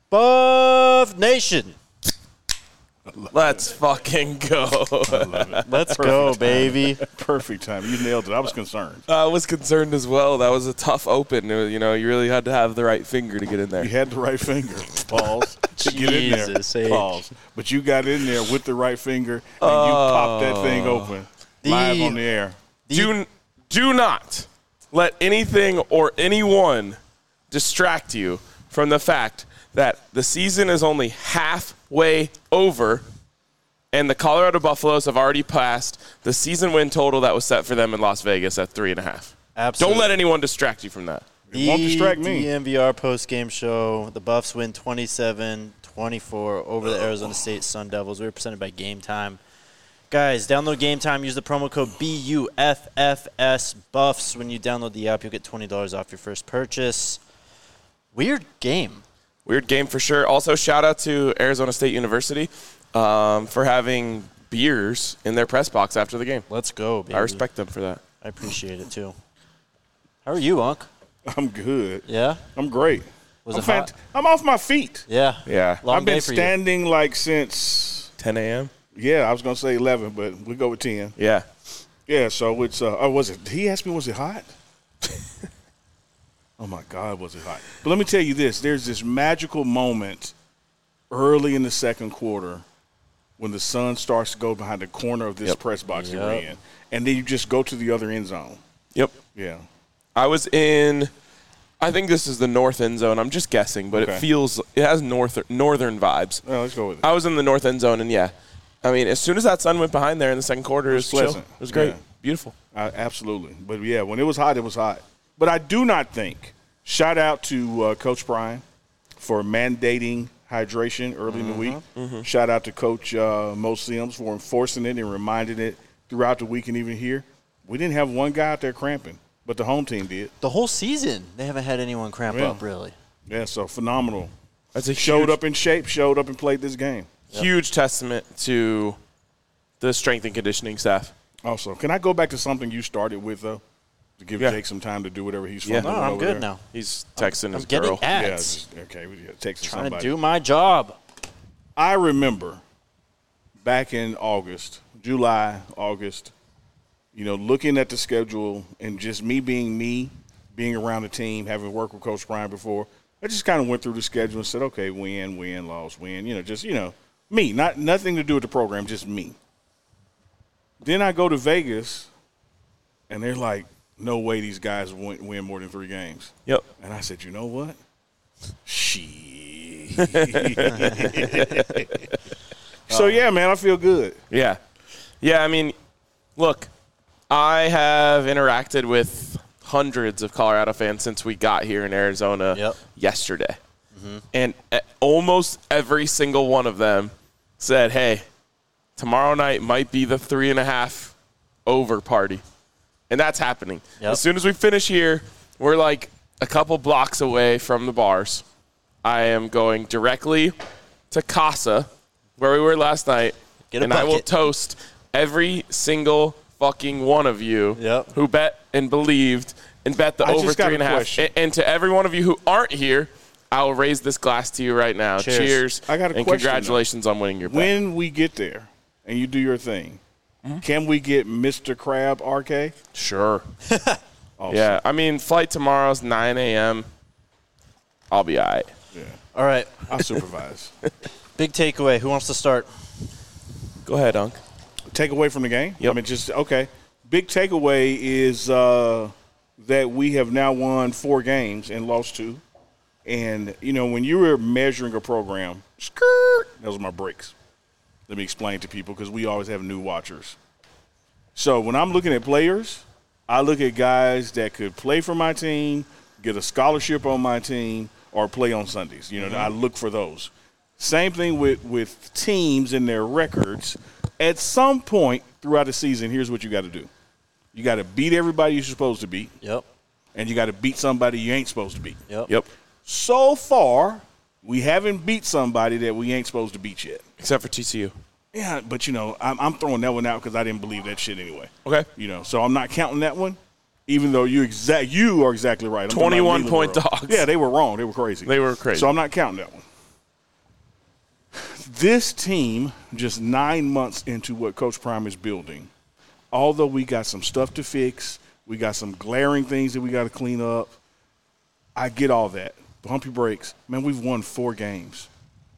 Buff Nation. Let's fucking go. I love it. Let's go, baby. Perfect time. You nailed it. I was concerned. I was concerned as well. That was a tough open. You know, you really had to have the right finger to get in there. You had the right finger. Pause. To get in there. Jesus, H. Pause. But you got in there with the right finger, and you popped that thing open live on the air. Do not let anything or anyone distract you from the fact that the season is only halfway over, and the Colorado Buffaloes have already passed the season win total that was set for them in Las Vegas at 3.5. Absolutely. Don't let anyone distract you from that. It won't distract me. The DNVR post-game show. The Buffs win 27-24 over the Arizona State Sun Devils. We were presented by Game Time. Guys, download Game Time. Use the promo code BUFFS Buffs. When you download the app, you'll get $20 off your first purchase. Weird game. Weird game for sure. Also, shout out to Arizona State University for having beers in their press box after the game. Let's go, baby. I respect them for that. I appreciate it, too. How are you, Unc? I'm good. Yeah? I'm great. Was it hot? I'm off my feet. Yeah. Yeah. Long I've been day for you. standing like since 10 a.m.? I was going to say 11, but we'll go with 10. Yeah. Yeah, so it's was it? He asked me, was it hot? Oh my God, was it hot? But let me tell you this: there's this magical moment early in the second quarter when the sun starts to go behind the corner of this press box that we're in, and then you just go to the other end zone. Yep. Yeah. I was in, I think this is the north end zone. I'm just guessing, but it has northern vibes. Well, let's go with it. I was in the north end zone, and I mean, as soon as that sun went behind there in the second quarter, it was pleasant. chill. It was great. Yeah. Beautiful. Absolutely. But, yeah, when it was hot, it was hot. But I do not think, shout out to Coach Prime for mandating hydration early in the week. Mm-hmm. Shout out to Coach Mo Sims for enforcing it and reminding it throughout the week and even here. We didn't have one guy out there cramping, but the home team did. The whole season, they haven't had anyone cramp up, really. Yeah, so phenomenal. That's a showed up in shape, showed up and played this game. Huge testament to the strength and conditioning staff. Also, can I go back to something you started with, though, to give Jake some time to do whatever he's from? No, I'm good now. He's texting his getting girl. ads. Texting Trying somebody. to do my job. I remember back in July, August, looking at the schedule and just me, being around the team, having worked with Coach Brian before, I just kind of went through the schedule and said, okay, win, loss, win, me, nothing to do with the program, just me. Then I go to Vegas, and they're like, no way these guys win more than 3 games. Yep. And I said, you know what? Shit. So, yeah, man, I feel good. Yeah. Yeah, I mean, look, I have interacted with hundreds of Colorado fans since we got here in Arizona yesterday. Mm-hmm. And almost every single one of them said, hey, tomorrow night might be the 3.5 over party. And that's happening. Yep. As soon as we finish here, we're like a couple blocks away from the bars. I am going directly to Casa, where we were last night, and I will toast every single fucking one of you who bet and believed and bet the over 3.5. And to every one of you who aren't here, I will raise this glass to you right now. Cheers. I got a question, congratulations on winning your bet. When we get there and you do your thing, can we get Mr. Crab RK? Sure. Awesome. Yeah, I mean, flight tomorrow's 9 a.m. I'll be all right. Yeah. All right. I'll supervise. Big takeaway. Who wants to start? Go ahead, Unc. Takeaway from the game? Yep. I mean, Big takeaway is that we have now won 4 games and lost 2. And, when you were measuring a program, those are my breaks. Let me explain to people because we always have new watchers. So when I'm looking at players, I look at guys that could play for my team, get a scholarship on my team, or play on Sundays. I look for those. Same thing with teams and their records. At some point throughout the season, here's what you got to do. You got to beat everybody you're supposed to beat. Yep. And you got to beat somebody you ain't supposed to beat. Yep. So far, we haven't beat somebody that we ain't supposed to beat yet. Except for TCU. Yeah, but, I'm throwing that one out because I didn't believe that shit anyway. Okay. So I'm not counting that one, even though you are exactly right. 21-point dogs. Yeah, they were wrong. They were crazy. They were crazy. So I'm not counting that one. This team, just 9 months into what Coach Prime is building, although we got some stuff to fix, we got some glaring things that we got to clean up, I get all that. Pump your brakes. Man, we've won 4 games.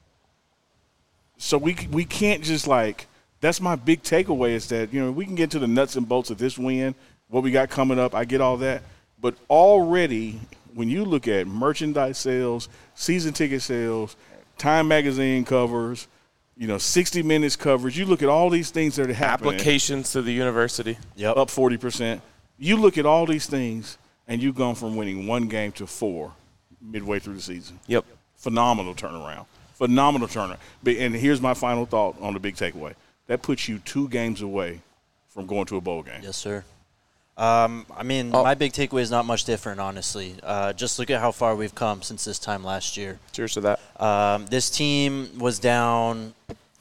So we can't just that's my big takeaway is that, we can get to the nuts and bolts of this win, what we got coming up. I get all that. But already, when you look at merchandise sales, season ticket sales, Time Magazine covers, 60 Minutes coverage, you look at all these things that are happening. Applications to the university. Yep. Up 40%. You look at all these things, and you've gone from winning 1 game to 4 midway through the season. Yep. Phenomenal turnaround. Phenomenal turnaround. And here's my final thought on the big takeaway. That puts you 2 games away from going to a bowl game. Yes, sir. My big takeaway is not much different, honestly. Just look at how far we've come since this time last year. Cheers to that. This team was down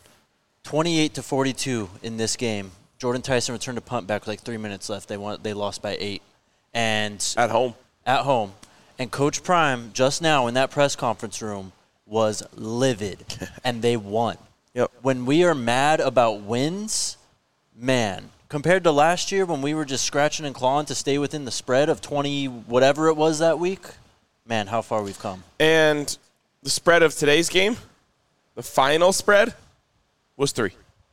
28-42 in this game. Jordan Tyson returned a punt back with 3 minutes left. They lost by 8. And At home. And Coach Prime, just now in that press conference room, was livid, and they won. Yep. When we are mad about wins, man, compared to last year when we were just scratching and clawing to stay within the spread of 20 whatever it was that week, man, how far we've come. And the spread of today's game, the final spread, was 3.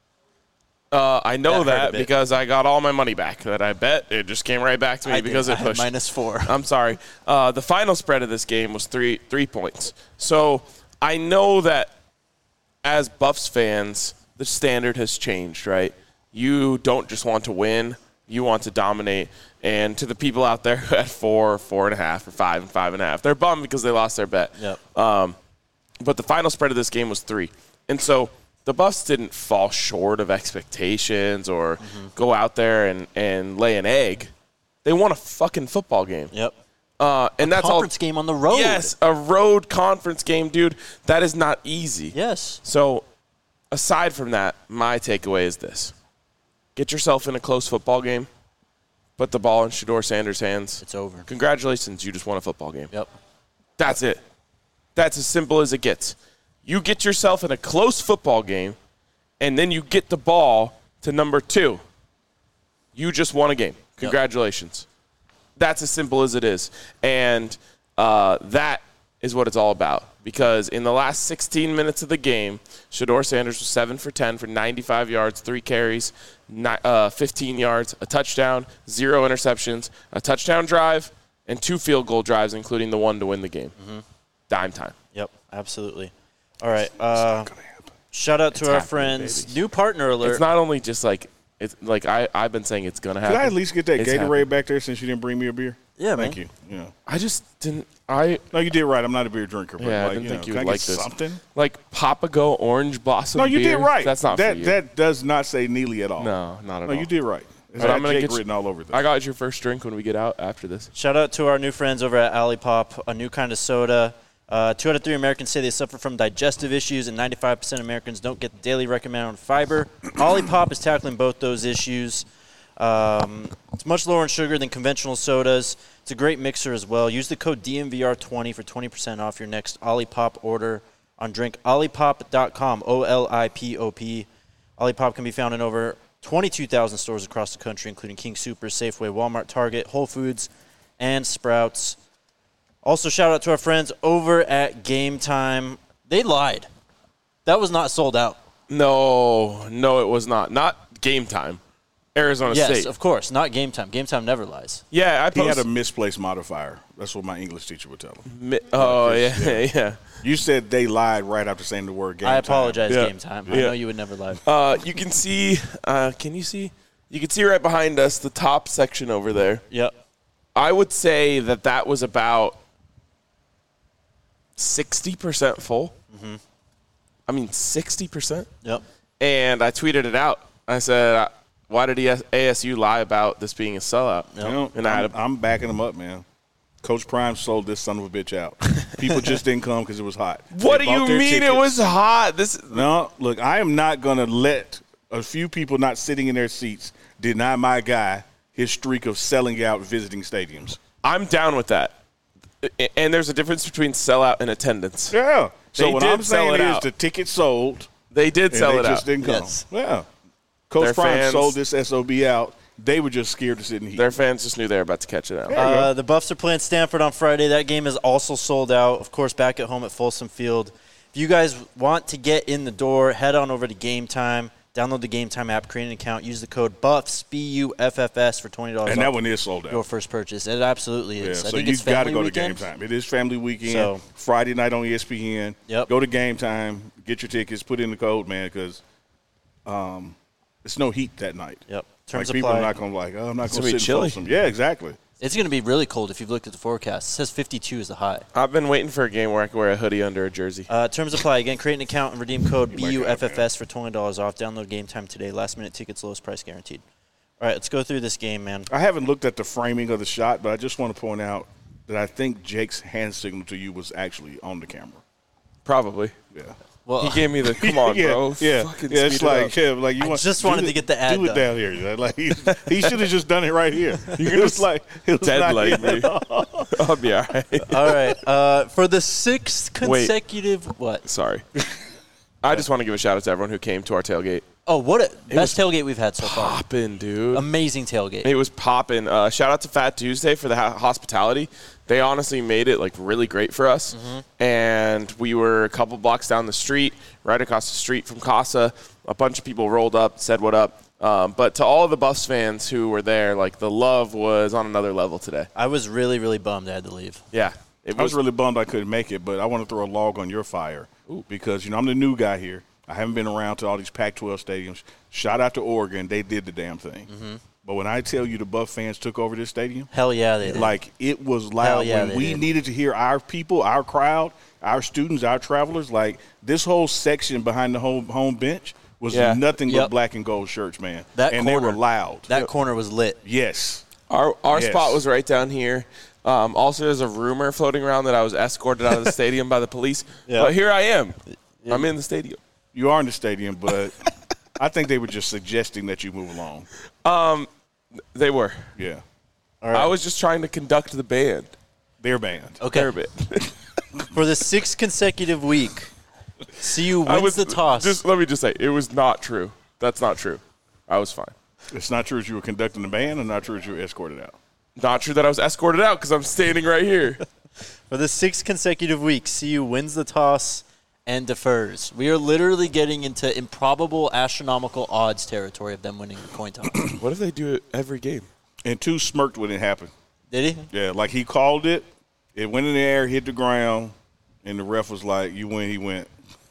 I know that because I got all my money back that I bet. It just came right back to me because it pushed. -4. I'm sorry. The final spread of this game was 3 points. So I know that as Buffs fans, the standard has changed, right? You don't just want to win. You want to dominate. And to the people out there who had 4, 4.5, or 5 and 5.5, they're bummed because they lost their bet. Yep. But the final spread of this game was 3. And so the Buffs didn't fall short of expectations or go out there and lay an egg. They won a fucking football game. Yep. And that's conference game on the road. Yes, a road conference game, dude. That is not easy. Yes. So aside from that, my takeaway is this. Get yourself in a close football game. Put the ball in Shedeur Sanders' hands. It's over. Congratulations, you just won a football game. Yep. That's it. That's as simple as it gets. You get yourself in a close football game, and then you get the ball to number 2. You just won a game. Congratulations. Yep. That's as simple as it is. And that is what it's all about. Because in the last 16 minutes of the game, Shedeur Sanders was 7 for 10 for 95 yards, 3 carries, 15 yards, a touchdown, 0 interceptions, a touchdown drive, and 2 field goal drives, including the one to win the game. Dime time. Yep, absolutely. All right. Shout out to our friends. Baby. New partner alert. It's not only just I've been saying it's going to happen. Could I at least get that It's Gatorade happening. back there since you didn't bring me a beer? Yeah, Thank man. you. Yeah. I just didn't. No, you did right. I'm not a beer drinker. But I didn't think you can would I like get this. something? Like Papago Orange Blossom No, you beer? did right. That's not that. for you. That does not say Neely at all. No, not at all. No, you did right. It's But I'm got gonna Jake get written all over this. I got your first drink when we get out after this. Shout out to our new friends over at Olipop, a new kind of soda. 2 out of 3 Americans say they suffer from digestive issues, and 95% of Americans don't get the daily recommended amount of fiber. Olipop is tackling both those issues. It's much lower in sugar than conventional sodas. It's a great mixer as well. Use the code DMVR20 for 20% off your next Olipop order on drinkolipop.com, OLIPOP. Olipop can be found in over 22,000 stores across the country, including King Soopers, Safeway, Walmart, Target, Whole Foods, and Sprouts. Also, shout out to our friends over at Game Time. They lied. That was not sold out. No, it was not. Not Game Time. Arizona State. Yes, of course. Not Game Time. Game Time never lies. Yeah, He had a misplaced modifier. That's what my English teacher would tell him. Yeah. You said they lied right after saying the word game time. I apologize, Yeah. Game Time. I Yeah. know you would never lie. You can see. Can you see? You can see right behind us the top section over there. Yep. I would say that was about 60% full. Mm-hmm. I mean, 60%. Yep. And I tweeted it out. I said, "Why did ASU lie about this being a sellout?" Yep. You know, And I'm backing him up, man. Coach Prime sold this son of a bitch out. People just didn't come because it was hot. What They do you bought their mean tickets. it was hot? No, look, I am not going to let a few people not sitting in their seats deny my guy his streak of selling out visiting stadiums. I'm down with that. And there's a difference between sellout and attendance. Yeah. So They what did I'm sell saying it is out. the ticket sold. They did sell it out. They just didn't come. Yes. Yeah. Coach Their Prime fans- sold this SOB out. They were just scared to sit in the heat. Their fans just knew they were about to catch it out. The Buffs are playing Stanford on Friday. That game is also sold out. Of course, back at home at Folsom Field. If you guys want to get in the door, head on over to Game Time. Download the Game Time app, create an account, use the code BUFFS, BUFFS for $20 and that one is sold out. Your first purchase. It absolutely is. Yeah, I so think you've it's got to family go weekend. to Game Time. It is family weekend. So- Friday night on ESPN. Yep. Go to Game Time. Get your tickets. Put in the code, man, because it's no heat that night. Yep. Like Terms people apply. are not going to I'm not going gonna to be sit in chilly. Folsom. Yeah, exactly. It's going to be really cold if you've looked at the forecast. It says 52 is the high. I've been waiting for a game where I can wear a hoodie under a jersey. Terms apply. Again, create an account and redeem code You might get it, BUFFS for $20 off. Download Game Time today. Last minute tickets, lowest price guaranteed. All right, let's go through this game, man. I haven't looked at the framing of the shot, but I just want to point out that I think Jake's hand signal to you was actually on the camera. Probably. Yeah. Well, He gave me the come on, yeah, bro. Yeah, Fucking yeah. It's speed it like, up. yeah, like you I want. just do wanted it- to get the ad Do it done. down here. Like he should have just done it right here. You're It was like it was dead not like here. me. I'll be all right. all right. For the sixth consecutive what? Sorry. I just want to give a shout out to everyone who came to our tailgate. Oh, what a best was tailgate we've had so far. Poppin', dude. Amazing tailgate. It was popping. Shout out to Fat Tuesday for the hospitality. They honestly made it like really great for us. Mm-hmm. And we were a couple blocks down the street, right across the street from Casa. A bunch of people rolled up, said what up. But to all of the Buffs fans who were there, like the love was on another level today. I was really, really bummed I had to leave. Yeah. It I was really bummed I couldn't make it, but I want to throw a log on your fire because I'm the new guy here. I haven't been around to all these Pac-12 stadiums. Shout out to Oregon. They did the damn thing. Mm-hmm. But when I tell you the Buff fans took over this stadium, Hell yeah, they did. like it was Hell loud. yeah, When they we did. needed to hear our people, our crowd, our students, our travelers, like this whole section behind the home bench was nothing but Yep. black and gold shirts, man. That and corner, they were loud. That corner was lit. Yes. Our Yes. spot was right down here. Also, there's a rumor floating around that I was escorted out of the stadium by the police. Yeah. But here I am. I'm in the stadium. You are in the stadium, but I think they were just suggesting that you move along. They were. Yeah. All right. I was just trying to conduct the band. Their band. Okay. Their band. For the sixth consecutive week, CU wins the toss. Just let me just say, it was not true. That's not true. I was fine. It's not true that you were conducting the band and not true that you were escorted out. Not true that I was escorted out because I'm standing right here. For the sixth consecutive week, CU wins the toss and defers. We are literally getting into improbable astronomical odds territory of them winning the coin toss. What if they do it every game? And two smirked when it happened. Did he? Yeah, like he called it. It went in the air, hit the ground, and the ref was like, "You win." He went.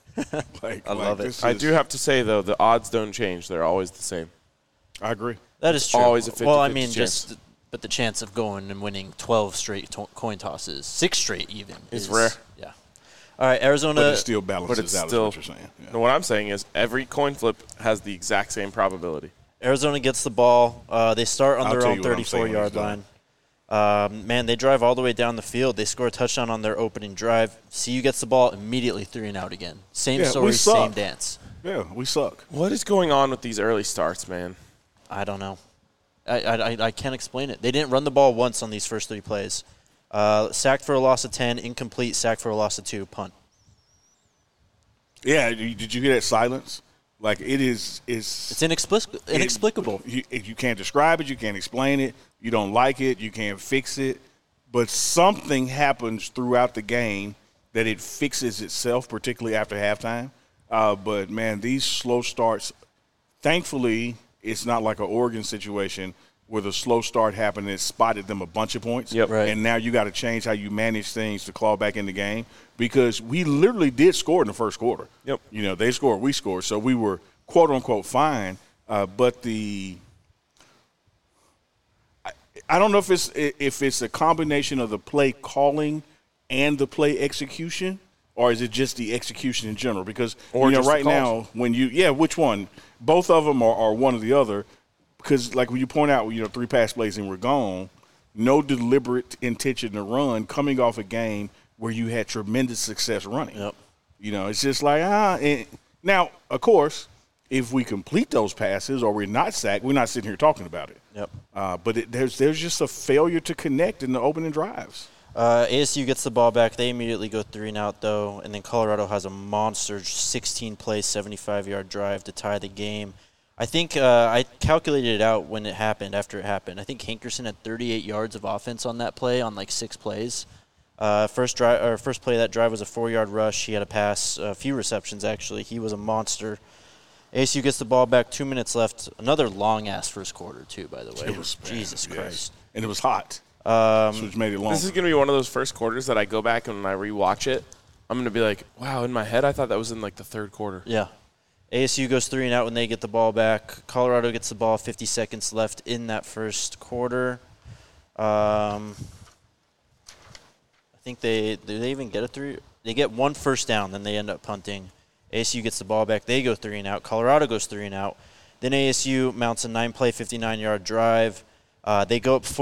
I love it. I do have to say, though, the odds don't change. They're always the same. I agree. That is true. Always a 50-50 Well, I mean, chance. but the chance of going and winning 12 straight coin tosses, 6 straight even, It's is rare. Yeah. All right, Arizona. But it still balances But it's out. still. Is what you're saying. Yeah. No, what I'm saying is every coin flip has the exact same probability. Arizona gets the ball. They start on I'll their tell own you what I'm saying when 34-yard he's done. line. Man, they drive all the way down the field. They score a touchdown on their opening drive. CU gets the ball immediately 3 and out again. Same Yeah, we story, suck. same dance. Yeah, we suck. What is going on with these early starts, man? I don't know. I can't explain it. They didn't run the ball once on these first 3 plays. Sacked for a loss of 10, incomplete, sacked for a loss of 2, punt. Yeah, did you hear that silence? Like it is. It's inexplicable. You can't describe it. You can't explain it. You don't like it. You can't fix it. But something happens throughout the game that it fixes itself, particularly after halftime. But, man, these slow starts, thankfully, it's not like an Oregon situation where the slow start happened and it spotted them a bunch of points. Yep. Right. And now you got to change how you manage things to claw back in the game because we literally did score in the first quarter. Yep. You know, they scored, we scored. So we were, quote, unquote, fine. But I don't know if it's a combination of the play calling and the play execution, or is it just the execution in general? Because Or just the right calls. now, which one? Both of them are one or the other. Because like when you point out, 3 pass plays and we're gone, no deliberate intention to run coming off a game where you had tremendous success running. Yep. It's just like and now, of course, if we complete those passes or we're not sacked, we're not sitting here talking about it. Yep. But there's just a failure to connect in the opening drives. ASU gets the ball back. They immediately go 3-and-out, though, and then Colorado has a monster 16-play, 75-yard drive to tie the game. I think I calculated it out when it happened, after it happened. I think Hankerson had 38 yards of offense on that play on, 6 plays. First play of that drive was a 4-yard rush. He had a pass, a few receptions, actually. He was a monster. ASU gets the ball back, 2 minutes left. Another long-ass first quarter, too, by the way. It was, Jesus Christ. And it was hot. Which made it long. This is going to be one of those first quarters that I go back and when I rewatch it, I'm going to be like, wow, in my head, I thought that was in the third quarter. Yeah. ASU goes 3-and-out when they get the ball back. Colorado gets the ball, 50 seconds left in that first quarter. I think do they even get a 3? They get 1 first down, then they end up punting. ASU gets the ball back. They go 3-and-out. Colorado goes 3-and-out. Then ASU mounts a 9-play, 59-yard drive. They go up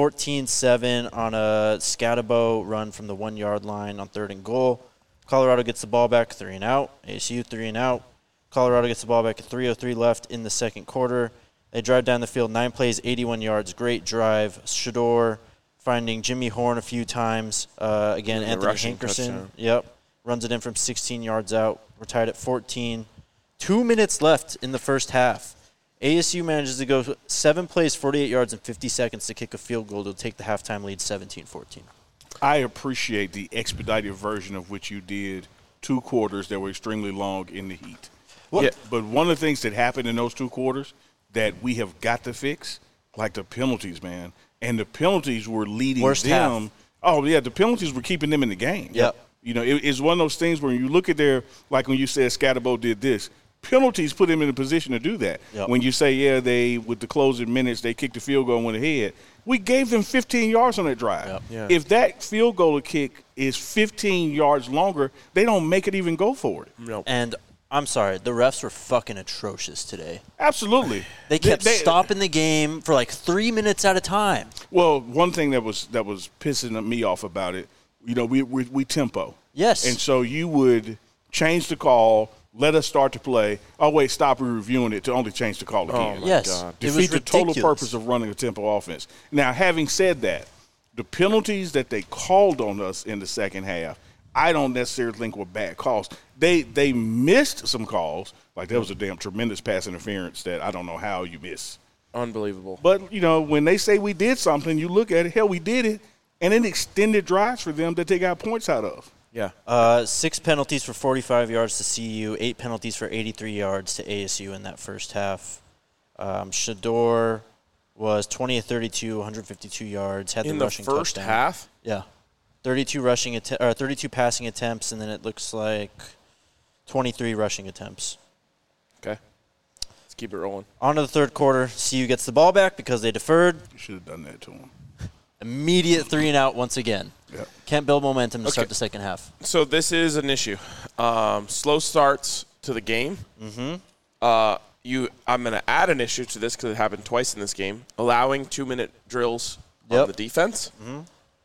14-7 on a Scatabo run from the 1-yard line on 3rd and goal. Colorado gets the ball back, 3-and-out. ASU 3-and-out. Colorado gets the ball back at 3:03 left in the second quarter. They drive down the field, 9 plays, 81 yards. Great drive. Shador finding Jimmy Horn a few times. Again, Anthony Hankerson. Yep. Runs it in from 16 yards out. We're tied at 14. 2 minutes left in the first half. ASU manages to go 7 plays, 48 yards, and 50 seconds to kick a field goal to take the halftime lead 17-14. I appreciate the expedited version of which you did 2 quarters that were extremely long in the heat. Yeah. But one of the things that happened in those 2 quarters that we have got to fix, like the penalties, man. And the penalties were leading Worst them. Half. Oh, yeah, the penalties were keeping them in the game. Yep. You know, it's one of those things where you look at like when you said Scatabo did this, penalties put him in a position to do that. Yep. When you say, with the closing minutes, they kicked the field goal and went ahead. We gave them 15 yards on that drive. Yep. Yeah. If that field goal kick is 15 yards longer, they don't make it even go for it. Nope. And I'm sorry, the refs were fucking atrocious today. Absolutely. They kept stopping the game for 3 minutes at a time. Well, one thing that was pissing me off about it, we tempo. Yes. And so you would change the call, let us start to play. Oh, wait, stop reviewing it to only change the call again. Oh, my yes. God. Defeat the total purpose of running a tempo offense. Now, having said that, the penalties that they called on us in the second half, I don't necessarily think were bad calls. They missed some calls. Like there was a damn tremendous pass interference that I don't know how you miss. Unbelievable. But, when they say we did something, you look at it, hell, we did it. And it extended drives for them that they got points out of. Yeah. 6 penalties for 45 yards to CU, 8 penalties for 83 yards to ASU in that first half. Shador was 20 of 32, 152 yards, had the rushing touchdown. In the first half? Yeah. 32 passing attempts, and then it looks like 23 rushing attempts. Okay. Let's keep it rolling. On to the third quarter. CU gets the ball back because they deferred. You should have done that to them. Immediate 3-and-out once again. Yep. Can't build momentum to start the second half. So this is an issue. Slow starts to the game. Mm-hmm. I'm going to add an issue to this because it happened twice in this game. Allowing 2-minute drills on the defense. Mm-hmm.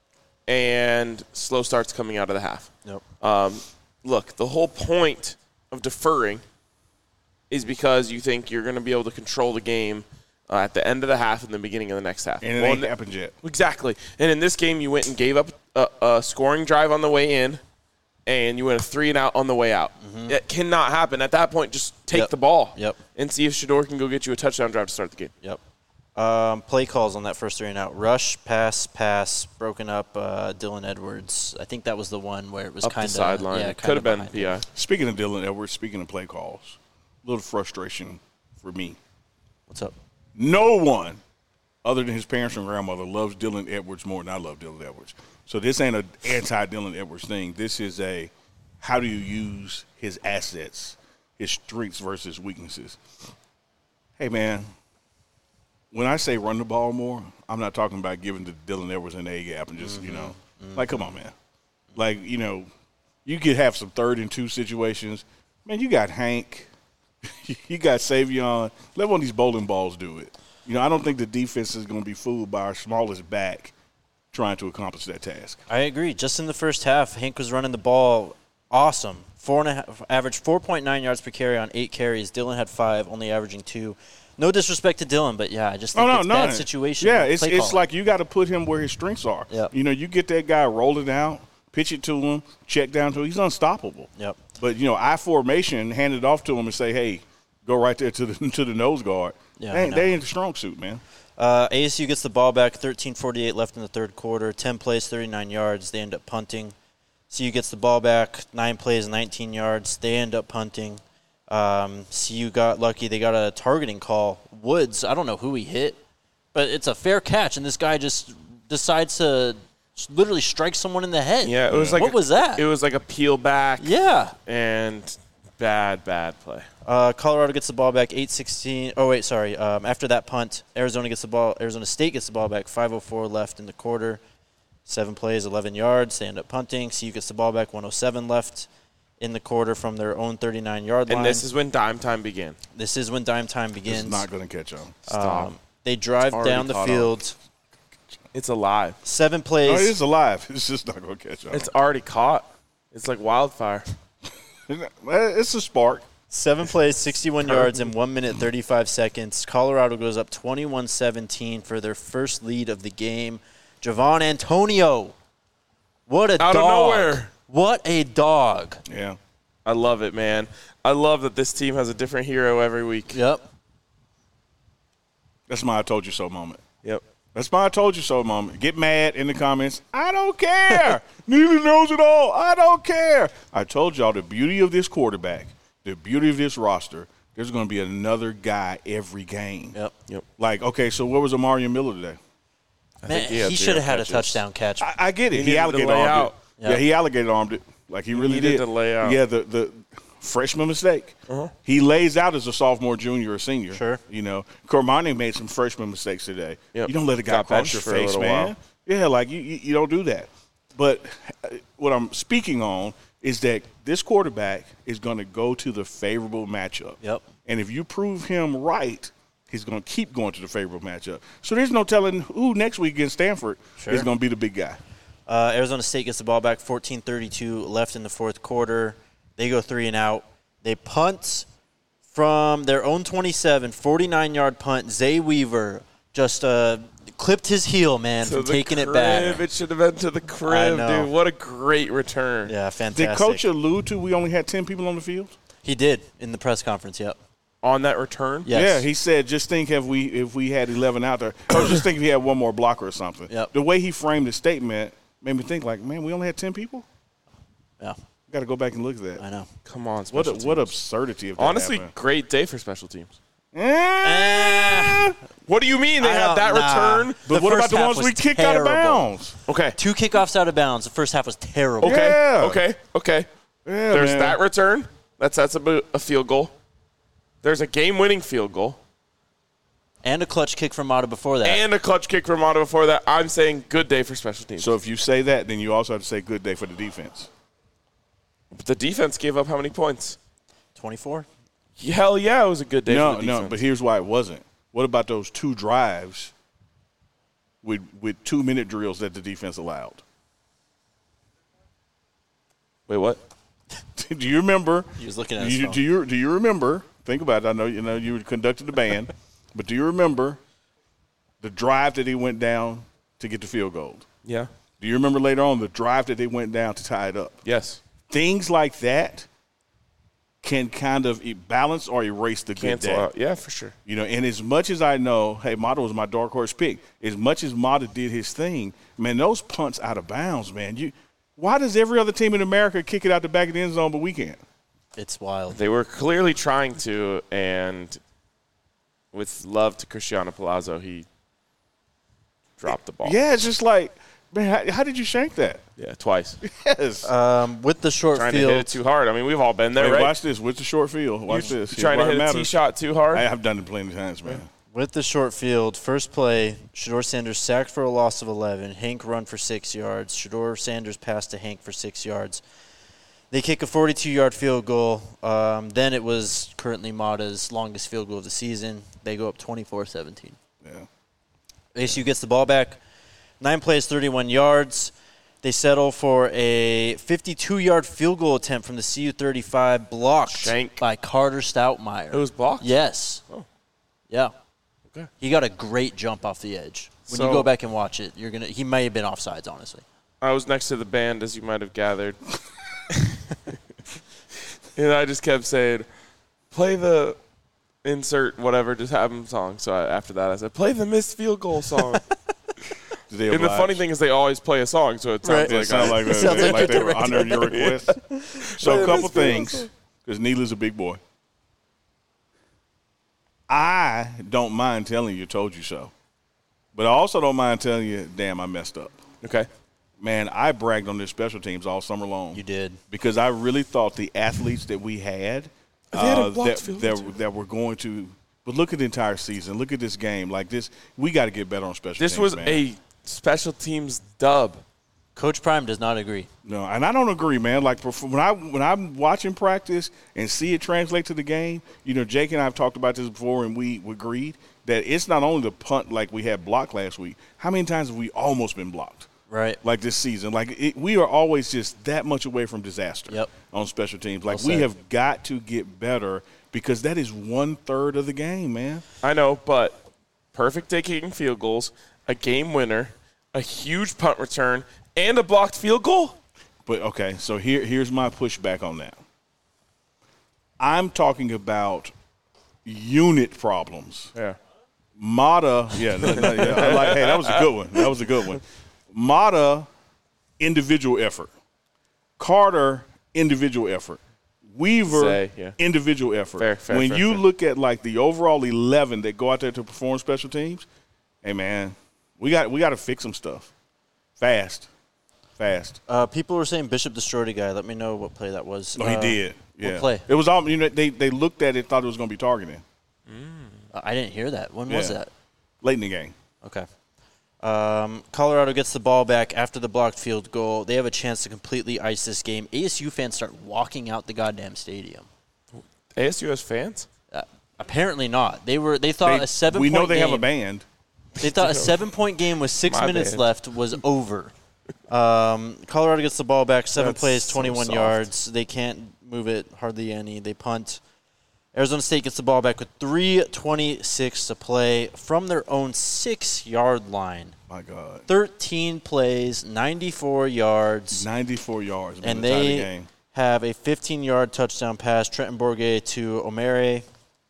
And slow starts coming out of the half. Yep. Look, the whole point of deferring is because you think you're going to be able to control the game at the end of the half and the beginning of the next half. And it ain't happened yet. Exactly. And in this game, you went and gave up a scoring drive on the way in, and you went a 3-and-out on the way out. Mm-hmm. It cannot happen. At that point, just take the ball and see if Shador can go get you a touchdown drive to start the game. Yep. Play calls on that first 3-and-out. Rush, pass, broken up Dylan Edwards. I think that was the one where it was kind of sideline. Yeah, could have been PI. Speaking of Dylan Edwards, speaking of play calls, a little frustration for me. What's up? No one other than his parents and grandmother loves Dylan Edwards more than I love Dylan Edwards. So this ain't an anti-Dylan Edwards thing. This is a how do you use his assets, his strengths versus weaknesses. Hey, man. When I say run the ball more, I'm not talking about giving to Dylan Edwards an A-gap and just, like, come on, man. Like, you could have some 3rd and 2 situations. Man, you got Hank. You got Savion. Let one of these bowling balls do it. I don't think the defense is going to be fooled by our smallest back trying to accomplish that task. I agree. Just in the first half, Hank was running the ball awesome. averaged 4.9 yards per carry on 8 carries. Dylan had 5, only averaging 2. No disrespect to Dylan, but yeah, I just think it's bad situation. Yeah, it's like you got to put him where his strengths are. Yep. You know, you get that guy, roll it out, pitch it to him, check down to him. He's unstoppable. Yep. But, you know, I formation, hand it off to him and say, hey, go right there to the nose guard. Yeah, they ain't the strong suit, man. ASU gets the ball back, 13:48 left in the third quarter, 10 plays, 39 yards. They end up punting. CU gets the ball back, 9 plays, 19 yards. They end up punting. CU got lucky. They got a targeting call. Woods, I don't know who he hit, but it's a fair catch, and this guy just decides to literally strike someone in the head. Yeah, it was like what was that? It was like a peel back. Yeah. And bad play. Colorado gets the ball back, 8:16. Oh, wait, sorry. After that punt, Arizona State gets the ball back, 5:04 left in the quarter. 7 plays, 11 yards. They end up punting. CU gets the ball back, 1:07 left in the quarter from their own 39-yard line. And this is when dime time began. This is when dime time begins. It's not going to catch on. Stop. They drive down the field. It's alive. 7 plays. No, it is alive. It's just not going to catch on. It's already caught. It's like wildfire. It's a spark. 7 plays, 61 yards in 1 minute, 35 seconds. Colorado goes up 21-17 for their first lead of the game. Javon Antonio. What a dog. Out of nowhere. What a dog. Yeah. I love it, man. I love that this team has a different hero every week. Yep. That's my I told you so moment. Yep. That's my I told you so moment. Get mad in the comments. I don't care. Neither knows it all. I don't care. I told y'all the beauty of this quarterback, the beauty of this roster, there's going to be another guy every game. Yep. Like, okay, so where was Amarian Miller today? Man, he should have had a touchdown catch. I get it. He alligator armed it. Yep. Yeah, he alligator armed it. Like he really did. To lay out. Yeah, the freshman mistake. Uh-huh. He lays out as a sophomore, junior, or senior. Sure. You know, Cormani made some freshman mistakes today. Yep. You don't let a guy cross your face, man. While. Yeah, like you don't do that. But what I'm speaking on is that this quarterback is going to go to the favorable matchup. Yep. And if you prove him right, he's going to keep going to the favorable matchup. So there's no telling who next week against Stanford is going to be the big guy. Arizona State gets the ball back, 14:32 left in the fourth quarter. They go 3 and out. They punt from their own 27, 49-yard punt. Zay Weaver just clipped his heel, man, from taking it back. It should have been to the crib, dude. What a great return. Yeah, fantastic. Did Coach allude to we only had 10 people on the field? He did in the press conference, yep. On that return? Yes. Yeah, he said, just think if we had 11 out there, or just think if he had one more blocker or something. Yep. The way he framed the statement made me think, like, man, we only had 10 people? Yeah. Got to go back and look at that. I know. Come on, what absurdity of that honestly, happened. Great day for special teams. What do you mean they had that return? But what about the ones we kicked out of bounds? Okay. 2 kickoffs out of bounds. The first half was terrible. Okay. Yeah. Okay. Yeah, There's man. that return. That's a field goal. There's a game-winning field goal. And a clutch kick from Mata before that. And a clutch kick from Mata before that. I'm saying good day for special teams. So if you say that, then you also have to say good day for the defense. The defense gave up how many points? 24. Hell yeah, it was a good day for the defense. No, but here's why it wasn't. What about those 2 drives with 2-minute drills that the defense allowed? Wait, what? Do you remember? He was looking at his phone. Do you remember? Think about it. I know you conducted the band, but do you remember the drive that he went down to get the field goal? Yeah. Do you remember later on the drive that they went down to tie it up? Yes. Things like that can kind of balance or erase the good day. Out. Yeah, for sure. You know, and as much as I know, hey, Mata was my dark horse pick. As much as Mata did his thing, man, those punts out of bounds, man. Why does every other team in America kick it out the back of the end zone, but we can't? It's wild. They were clearly trying to, and with love to Cristiano Palazzo, he dropped the ball. Yeah, it's just like, man, how did you shank that? Yeah, twice. Yes. With the short trying field. to hit it too hard. I mean, we've all been there, right? Watch this. With the short field. Watch this. Trying to hit a tee shot too hard? I have done it plenty of times, man. With the short field, first play, Shedeur Sanders sacked for a loss of 11. Hank run for 6 yards. Shedeur Sanders passed to Hank for 6 yards. They kick a 42-yard field goal. Then it was currently Mata's longest field goal of the season. They go up 24-17. Yeah. ASU gets the ball back. 9 plays, 31 yards. They settle for a 52-yard field goal attempt from the CU 35, blocked by Carter Stoutmeyer. It was blocked? Yes. Oh. Yeah. Okay. He got a great jump off the edge. When you go back and watch it, he may have been offsides, honestly. I was next to the band, as you might have gathered. And I just kept saying, play the insert whatever, just have them song. So after that, I said, play the missed field goal song. And the funny thing is they always play a song, so it sounds like they were honoring your request. So a couple things, because Neely's a big boy. I don't mind telling you, told you so. But I also don't mind telling you, damn, I messed up. Okay. Man, I bragged on their special teams all summer long. You did. Because I really thought the athletes that we had that were going to – but look at the entire season. Look at this game. Like this, we got to get better on special teams, This was man. a special teams dub. Coach Prime does not agree. No, and I don't agree, man. Like when I'm watching practice and see it translate to the game, Jake and I have talked about this before, and we agreed that it's not only the punt like we had blocked last week. How many times have we almost been blocked? Right. Like this season. We are always just that much away from disaster on special teams. Like we have got to get better because that is 1/3 of the game, man. I know, but perfect day-kicking field goals, a game winner, a huge punt return, and a blocked field goal? But, okay, so here's my pushback on that. I'm talking about unit problems. Yeah. Mata, hey, that was a good one. Mata, individual effort. Carter, individual effort. Weaver, individual effort. Fair, when you look at like the overall 11 that go out there to perform special teams, hey man, we got to fix some stuff fast. People were saying Bishop destroyed a guy. Let me know what play that was. No, he did. Yeah. What play? It was all. They looked at it, thought it was going to be targeting. I didn't hear that. When was that? Late in the game. Okay. Colorado gets the ball back after the blocked field goal. They have a chance to completely ice this game. ASU fans start walking out the goddamn stadium. ASU has fans? Apparently not. They thought a 7-point game. We know they have a band. They thought a 7-point game with 6 minutes left was over. Colorado gets the ball back, 7 plays, 21 yards. They can't move it hardly any. They punt. Arizona State gets the ball back with 3:26 to play from their own 6-yard line. My God. 13 plays, 94 yards. 94 yards. And they have a 15-yard touchdown pass, Trenton Bourguet to O'Mare,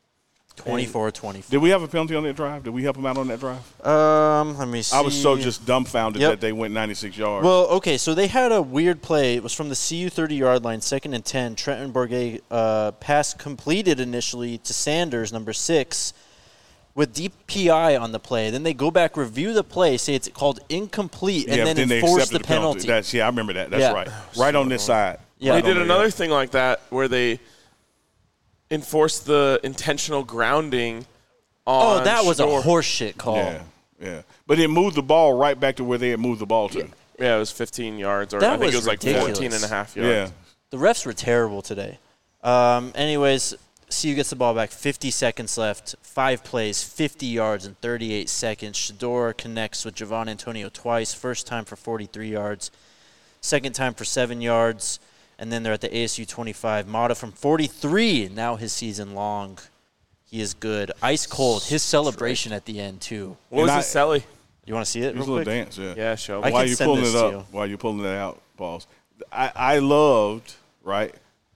24-24. Did we have a penalty on that drive? Did we help them out on that drive? Let me see. I was so just dumbfounded that they went 96 yards. Well, okay, so they had a weird play. It was from the CU 30-yard line, 2nd and 10. Trenton Bourguet pass completed initially to Sanders, number 6, with deep PI on the play. Then they go back, review the play, say it's called incomplete, and then enforce the penalty. I remember that. That's right. Right on this side. Yeah. They did another thing like that where they enforced the intentional grounding on that was a horseshit call. Yeah. But it moved the ball right back to where they had moved the ball to. Yeah, it was 15 yards, or I think it was ridiculous. Like 14 and a half yards. Yeah. The refs were terrible today. Anyways, CU gets the ball back, 50 seconds left, 5 plays, 50 yards in 38 seconds. Shedeur connects with Javon Antonio twice, first time for 43 yards, second time for 7 yards. And then they're at the ASU 25. Mata from 43, now his season long. He is good. Ice cold. His celebration at the end, too. What was his celly? You want to see it real quick? A little dance, yeah. Yeah, show me. While you're pulling it up, while you're pulling it out, pause. I loved, right,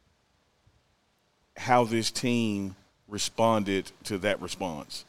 how this team responded to that response.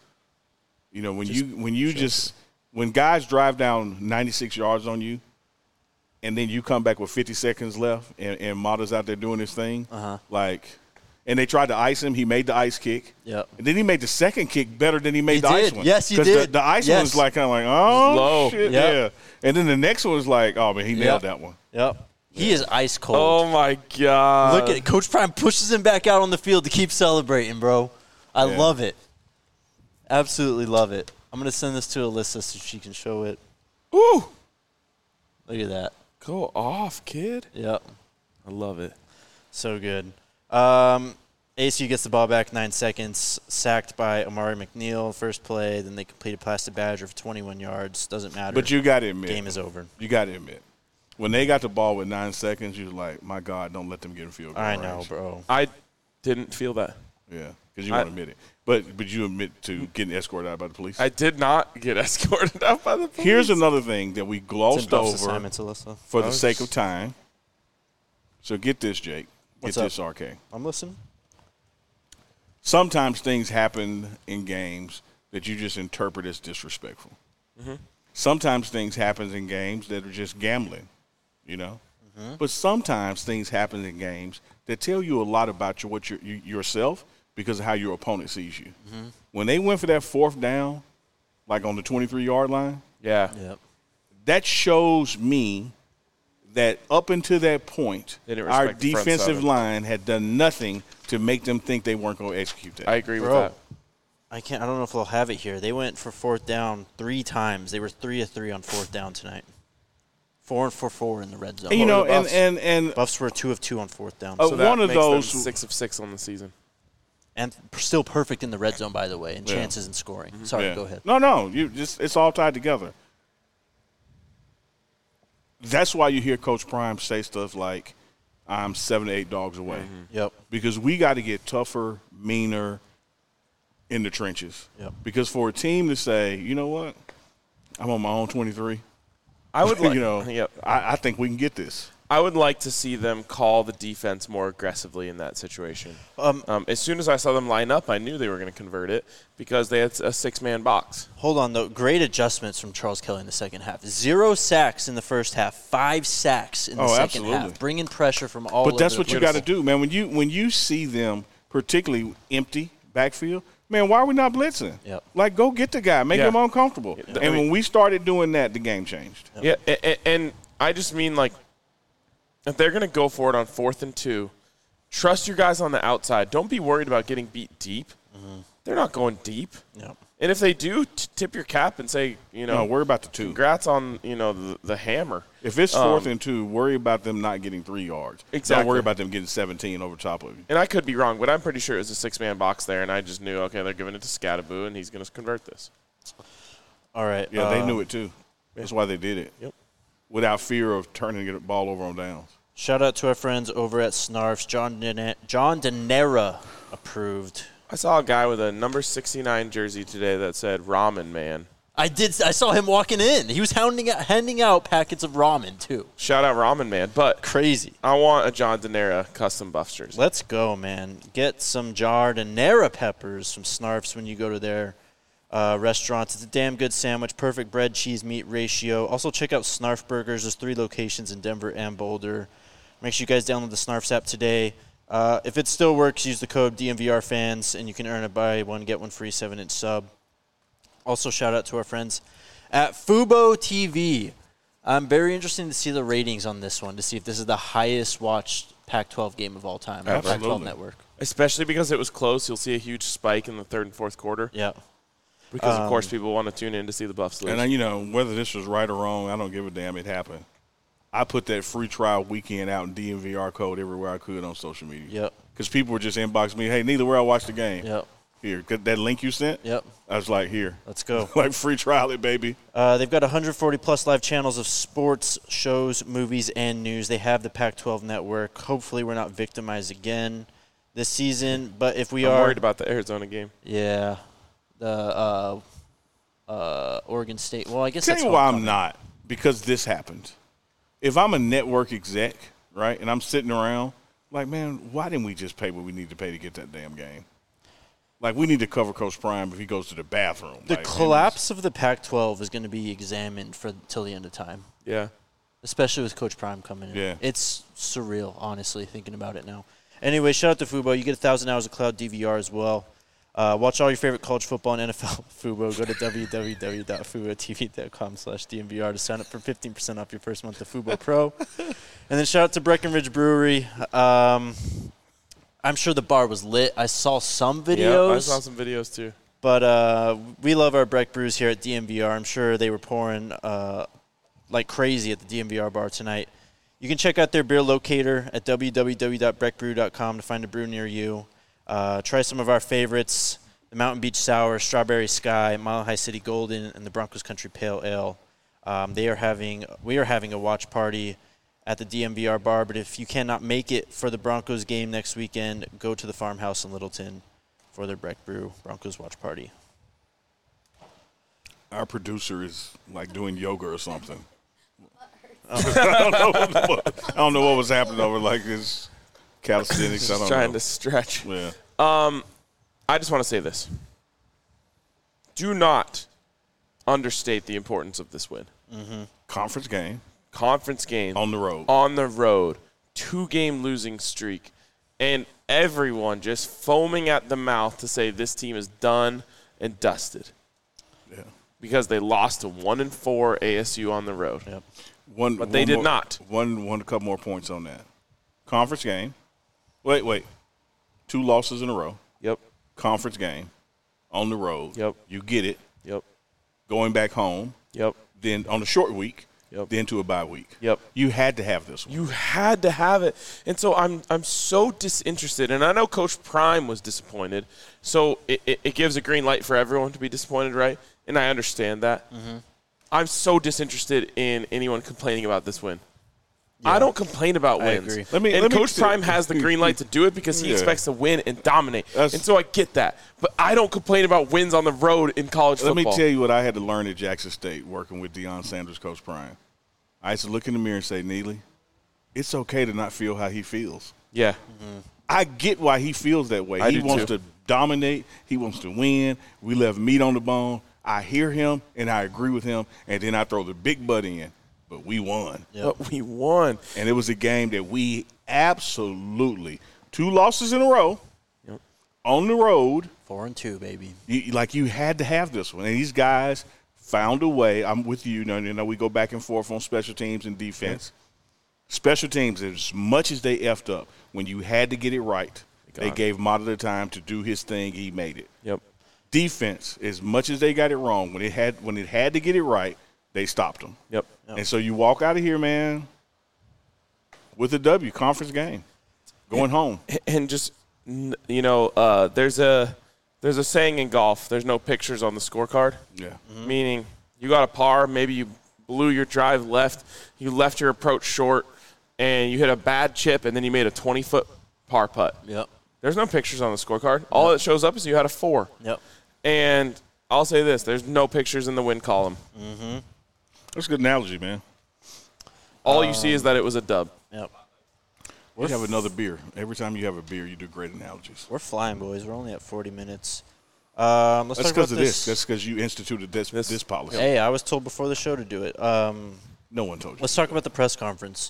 When guys drive down 96 yards on you, and then you come back with 50 seconds left, and Mata's out there doing his thing. And they tried to ice him. He made the ice kick. Yep. And then he made the second kick better than he made the ice one. Yes, he did. Because the ice one was like kind of like, oh, low. shit, yeah. And then the next one was like, oh, man, he nailed that one. Yep. He is ice cold. Oh, my God. Look at it. Coach Prime pushes him back out on the field to keep celebrating, bro. I love it. Absolutely love it. I'm going to send this to Alyssa so she can show it. Ooh. Look at that. Go off, kid. Yep. I love it. So good. ASU gets the ball back, 9 seconds, sacked by Amari McNeil, first play. Then they completed pass to Badger for 21 yards. Doesn't matter. But you got to admit. Game is over. You got to admit. When they got the ball with 9 seconds, you was like, my God, don't let them get in field goal I range. know, bro. I didn't feel that. Yeah, because you won't admit it. But you admit to getting escorted out by the police? I did not get escorted out by the police. Here's another thing that we glossed over for the sake of time. So get this, Jake. Get this, RK. I'm listening. Sometimes things happen in games that you just interpret as disrespectful. Mm-hmm. Sometimes things happen in games that are just gambling, you know. Mm-hmm. But sometimes things happen in games that tell you a lot about yourself because of how your opponent sees you. Mm-hmm. When they went for that 4th down, like on the 23-yard line, that shows me that up until that point, our defensive line had done nothing to make them think they weren't going to execute that. I agree with that. I don't know if they'll have it here. They went for 4th down 3 times. They were 3 of 3 on 4th down tonight. 4 for 4 in the red zone. And, you know, and Buffs were 2 of 2 on 4th down. So that one of those 6 of 6 on the season. And still perfect in the red zone, by the way, and chances in scoring. Mm-hmm. Sorry, go ahead. No, it's all tied together. That's why you hear Coach Prime say stuff like, I'm 7 to 8 dogs away. Mm-hmm. Yep. Because we got to get tougher, meaner in the trenches. Yep. Because for a team to say, you know what, I'm on my own 23, I would like, I think we can get this. I would like to see them call the defense more aggressively in that situation. As soon as I saw them line up, I knew they were going to convert it because they had a 6-man box. Hold on, though. Great adjustments from Charles Kelly in the second half. 0 sacks in the first half, 5 sacks in the second half. Bringing pressure from all over. But that's what you got to do, man. When you see them, particularly empty backfield, man, why are we not blitzing? Yep. Like, go get the guy. Make him uncomfortable. And when we started doing that, the game changed. Yep. Yeah, and I just mean, like, if they're going to go for it on 4th and 2, trust your guys on the outside. Don't be worried about getting beat deep. Mm-hmm. They're not going deep. Yep. And if they do, tip your cap and say, no, worry about the 2. Congrats on, the hammer. If it's 4th and 2, worry about them not getting 3 yards. Exactly. Don't worry about them getting 17 over top of you. And I could be wrong, but I'm pretty sure it was a 6-man box there, and I just knew, okay, they're giving it to Scadaboo, and he's going to convert this. All right. Yeah, they knew it too. That's why they did it. Yep. Without fear of turning the ball over on downs. Shout out to our friends over at Snarfs. John Denera approved. I saw a guy with a number 69 jersey today that said Ramen Man. I saw him walking in. He was handing out packets of ramen, too. Shout out Ramen Man. But crazy. I want a John Denera custom Buffs jersey. Let's go, man. Get some Denera peppers from Snarfs when you go to their restaurants. It's a damn good sandwich. Perfect bread, cheese, meat ratio. Also, check out Snarf Burgers. There's 3 locations in Denver and Boulder. Make sure you guys download the Snarfs app today. If it still works, use the code DMVRFans, and you can earn a buy one, get one free 7-inch sub. Also, shout out to our friends at Fubo TV. I'm very interested to see the ratings on this one, to see if this is the highest watched Pac-12 game of all time on the Pac-12 network. Especially because it was close. You'll see a huge spike in the 3rd and 4th quarter. Yeah. Because, of course, people want to tune in to see the Buffs lose. And, whether this was right or wrong, I don't give a damn. It happened. I put that free trial weekend out in DMVR code everywhere I could on social media. Yep. Because people were just inboxing me, hey, neither where I watched the game. Yep. Here, that link you sent? Yep. I was like, here. Let's go. Like, free trial it, baby. They've got 140-plus live channels of sports, shows, movies, and news. They have the Pac-12 network. Hopefully we're not victimized again this season. But if we I'm worried about the Arizona game. Yeah. The Oregon State. Well, I guess Tell that's you why I'm not. Because this happened. If I'm a network exec, right, and I'm sitting around, like, man, why didn't we just pay what we need to pay to get that damn game? Like, we need to cover Coach Prime if he goes to the bathroom. The collapse of the Pac-12 is going to be examined till the end of time. Yeah. Especially with Coach Prime coming in. Yeah. It's surreal, honestly, thinking about it now. Anyway, shout out to Fubo. You get 1,000 hours of cloud DVR as well. Watch all your favorite college football and NFL Fubo. Go to www.fubotv.com/DMVR to sign up for 15% off your first month of Fubo Pro. And then shout out to Breckenridge Brewery. I'm sure the bar was lit. I saw some videos. Yeah, I saw some videos too. But we love our Breck Brews here at DMVR. I'm sure they were pouring like crazy at the DMVR bar tonight. You can check out their beer locator at www.breckbrew.com to find a brew near you. Try some of our favorites, the Mountain Beach Sour, Strawberry Sky, Mile High City Golden, and the Broncos Country Pale Ale. We are having a watch party at the DMVR bar. But if you cannot make it for the Broncos game next weekend, go to the Farmhouse in Littleton for their Breck Brew Broncos watch party. Our producer is like doing yoga or something. I don't know what was happening over like this calisthenics. I don't trying know. to stretch. Yeah. I just want to say this. Do not understate the importance of this win. Mm-hmm. Conference game. Conference game. On the road. On the road. 2-game losing streak. And everyone just foaming at the mouth to say this team is done and dusted. Yeah. Because they lost to 1-4 ASU on the road. Yep. But they did not. A couple more points on that. Conference game. Wait. 2 losses in a row. Yep. Conference game. On the road. Yep. You get it. Yep. Going back home. Yep. Then on a short week. Yep. Then to a bye week. Yep. You had to have this one. You had to have it. And so I'm so disinterested. And I know Coach Prime was disappointed. So it gives a green light for everyone to be disappointed, right? And I understand that. Mm-hmm. I'm so disinterested in anyone complaining about this win. Yeah. I don't complain about wins. I agree. Coach Prime has the green light to do it because he expects to win and dominate. And so I get that. But I don't complain about wins on the road in college football. Let me tell you what I had to learn at Jackson State working with Deion Sanders, Coach Prime. I used to look in the mirror and say, Neely, it's okay to not feel how he feels. Yeah. Mm-hmm. I get why he feels that way. He wants to dominate. He wants to win. We left meat on the bone. I hear him, and I agree with him, and then I throw the big butt in. But we won. Yep. But we won. And it was a game that we absolutely – 2 losses in a row on the road. 4-2, baby. You had to have this one. And these guys found a way. I'm with you. You know, we go back and forth on special teams and defense. Yeah. Special teams, as much as they effed up, when you had to get it right, they gave Mata the time to do his thing. He made it. Yep. Defense, as much as they got it wrong, when it had to get it right, they stopped them. Yep. And so you walk out of here, man, with a W, conference game, going home. And just, you know, there's a saying in golf, there's no pictures on the scorecard. Yeah. Mm-hmm. Meaning you got a par, maybe you blew your drive left, you left your approach short, and you hit a bad chip, and then you made a 20-foot par putt. Yep. There's no pictures on the scorecard. All that shows up is you had a 4. Yep. And I'll say this, there's no pictures in the win column. Mm-hmm. That's a good analogy, man. All you see is that it was a dub. Yep. You have another beer. Every time you have a beer, you do great analogies. We're flying, boys. We're only at 40 minutes. Let's That's talk about because of this. That's because you instituted this policy. Hey, I was told before the show to do it. No one told you. Let's talk about the press conference.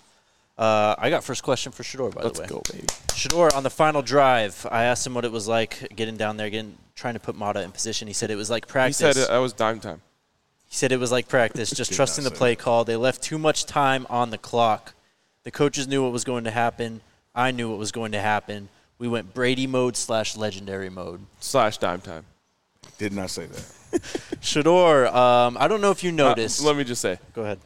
I got first question for Shador, by the way. Let's go, baby. Shador, on the final drive, I asked him what it was like getting down there, trying to put Mata in position. He said it was like practice. He said that was dime time. He said it was like practice, just trusting the play call. They left too much time on the clock. The coaches knew what was going to happen. I knew what was going to happen. We went Brady mode / legendary mode. / dime time. Did not say that. Shador, I don't know if you noticed. Let me just say. Go ahead.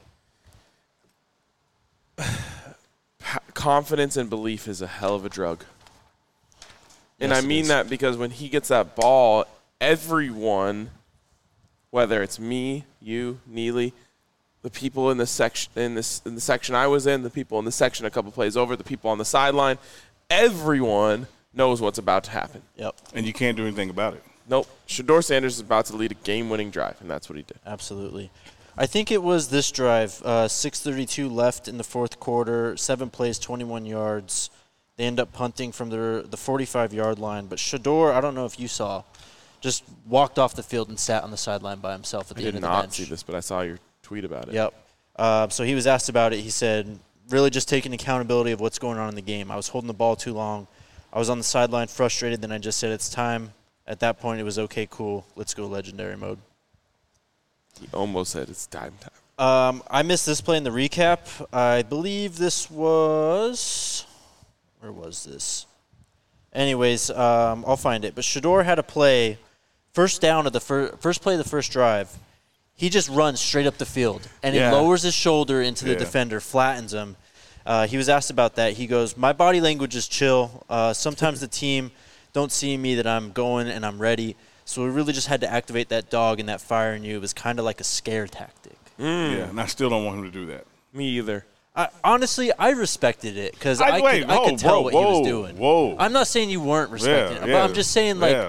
Confidence and belief is a hell of a drug. And I mean that because when he gets that ball, everyone, whether it's me, you, Neely, the people in the section in the section I was in, the people in the section a couple plays over, the people on the sideline, everyone knows what's about to happen. Yep. And you can't do anything about it. Nope. Shador Sanders is about to lead a game-winning drive, and that's what he did. Absolutely. I think it was this drive, 6:32 left in the fourth quarter, 7 plays, 21 yards. They end up punting from the 45-yard line. But Shador, I don't know if you saw, just walked off the field and sat on the sideline by himself at the end of the bench. I did not see this, but I saw your tweet about it. Yep. So he was asked about it. He said, really just taking accountability of what's going on in the game. I was holding the ball too long. I was on the sideline frustrated. Then I just said, it's time. At that point, it was okay, cool. Let's go legendary mode. He almost said it's time time. I missed this play in the recap. I believe this was – where was this? Anyways, I'll find it. But Shador had a play, first down of the first play of the first drive. He just runs straight up the field, and he lowers his shoulder into the defender, flattens him. He was asked about that. He goes, my body language is chill. Sometimes the team don't see me that I'm going and I'm ready. So we really just had to activate that dog and that fire in you. It was kind of like a scare tactic. Yeah, and I still don't want him to do that. Me either. Honestly, I respected it because I could tell what he was doing. I'm not saying you weren't respecting it, but I'm just saying, like,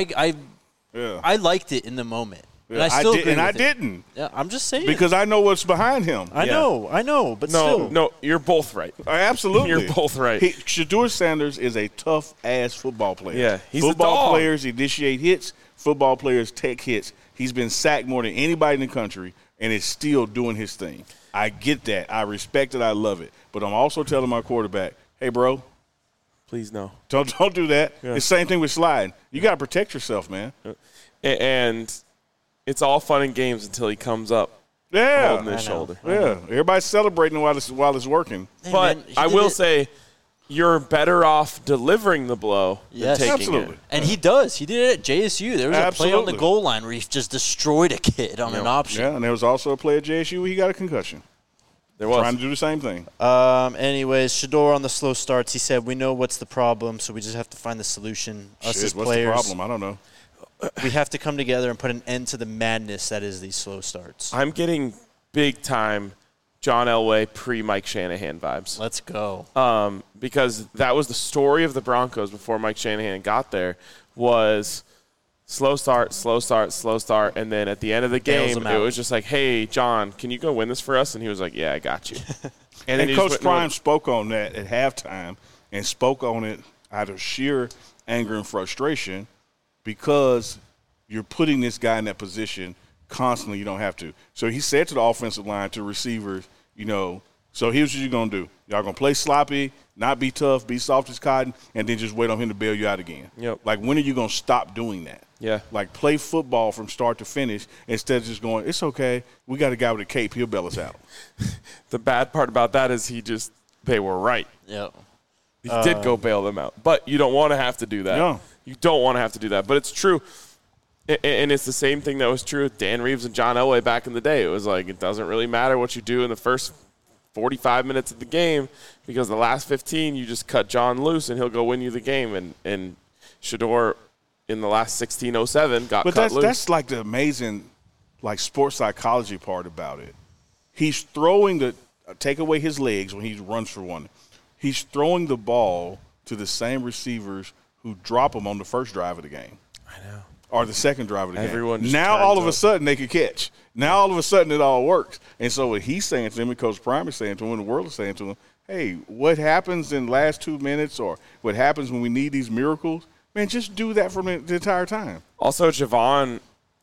I liked it in the moment. And I still agree with it. Didn't. Yeah, I'm just saying. Because I know what's behind him. I know, but still. No, you're both right. Absolutely. You're both right. Shedeur Sanders is a tough-ass football player. Yeah, he's football players initiate hits. Football players take hits. He's been sacked more than anybody in the country, and is still doing his thing. I get that. I respect it. I love it. But I'm also telling my quarterback, hey, bro. Please no. Don't do that. Yeah. It's the same thing with sliding. You got to protect yourself, man. And it's all fun and games until he comes up holding his shoulder. Yeah, everybody's celebrating while it's working. Hey, but man, I will say you're better off delivering the blow than taking it. And he does. He did it at JSU. There was a play on the goal line where he just destroyed a kid on an option. Yeah, and there was also a play at JSU where he got a concussion. There was. Trying to do the same thing. Anyways, Shedeur on the slow starts, he said, we know what's the problem, so we just have to find the solution. Us as players. What's the problem? I don't know. We have to come together and put an end to the madness that is these slow starts. I'm getting big-time John Elway pre-Mike Shanahan vibes. Let's go. Because that was the story of the Broncos before Mike Shanahan got there, was slow start, and then at the end of the game, it was just like, hey, John, can you go win this for us? And he was like, yeah, I got you. and Coach Prime spoke on that at halftime and spoke on it out of sheer anger and frustration, because you're putting this guy in that position constantly. You don't have to. So he said to the offensive line, to receivers, so here's what you're going to do. Y'all going to play sloppy, not be tough, be soft as cotton, and then just wait on him to bail you out again. Yep. Like, when are you going to stop doing that? Yeah. Like, play football from start to finish instead of just going, it's okay, we got a guy with a cape, he'll bail us out. The bad part about that is they were right. Yep. He did go bail them out. But you don't want to have to do that. No. You don't want to have to do that. But it's true. And it's the same thing that was true with Dan Reeves and John Elway back in the day. It was like, it doesn't really matter what you do in the first 45 minutes of the game, because the last 15 you just cut John loose and he'll go win you the game. And Shedeur in the last 16:07 got cut loose. But that's like the amazing sports psychology part about it. He's throwing take away his legs when he runs for one. He's throwing the ball to the same receivers who drop him on the first drive of the game. I know. Or the second drive of the game. Now all of a sudden they could catch. Now all of a sudden it all works. And so what he's saying to him, and Coach Prime is saying to him, and the world is saying to him, hey, what happens in the last 2 minutes, or what happens when we need these miracles, man, just do that for the entire time. Also, Javon,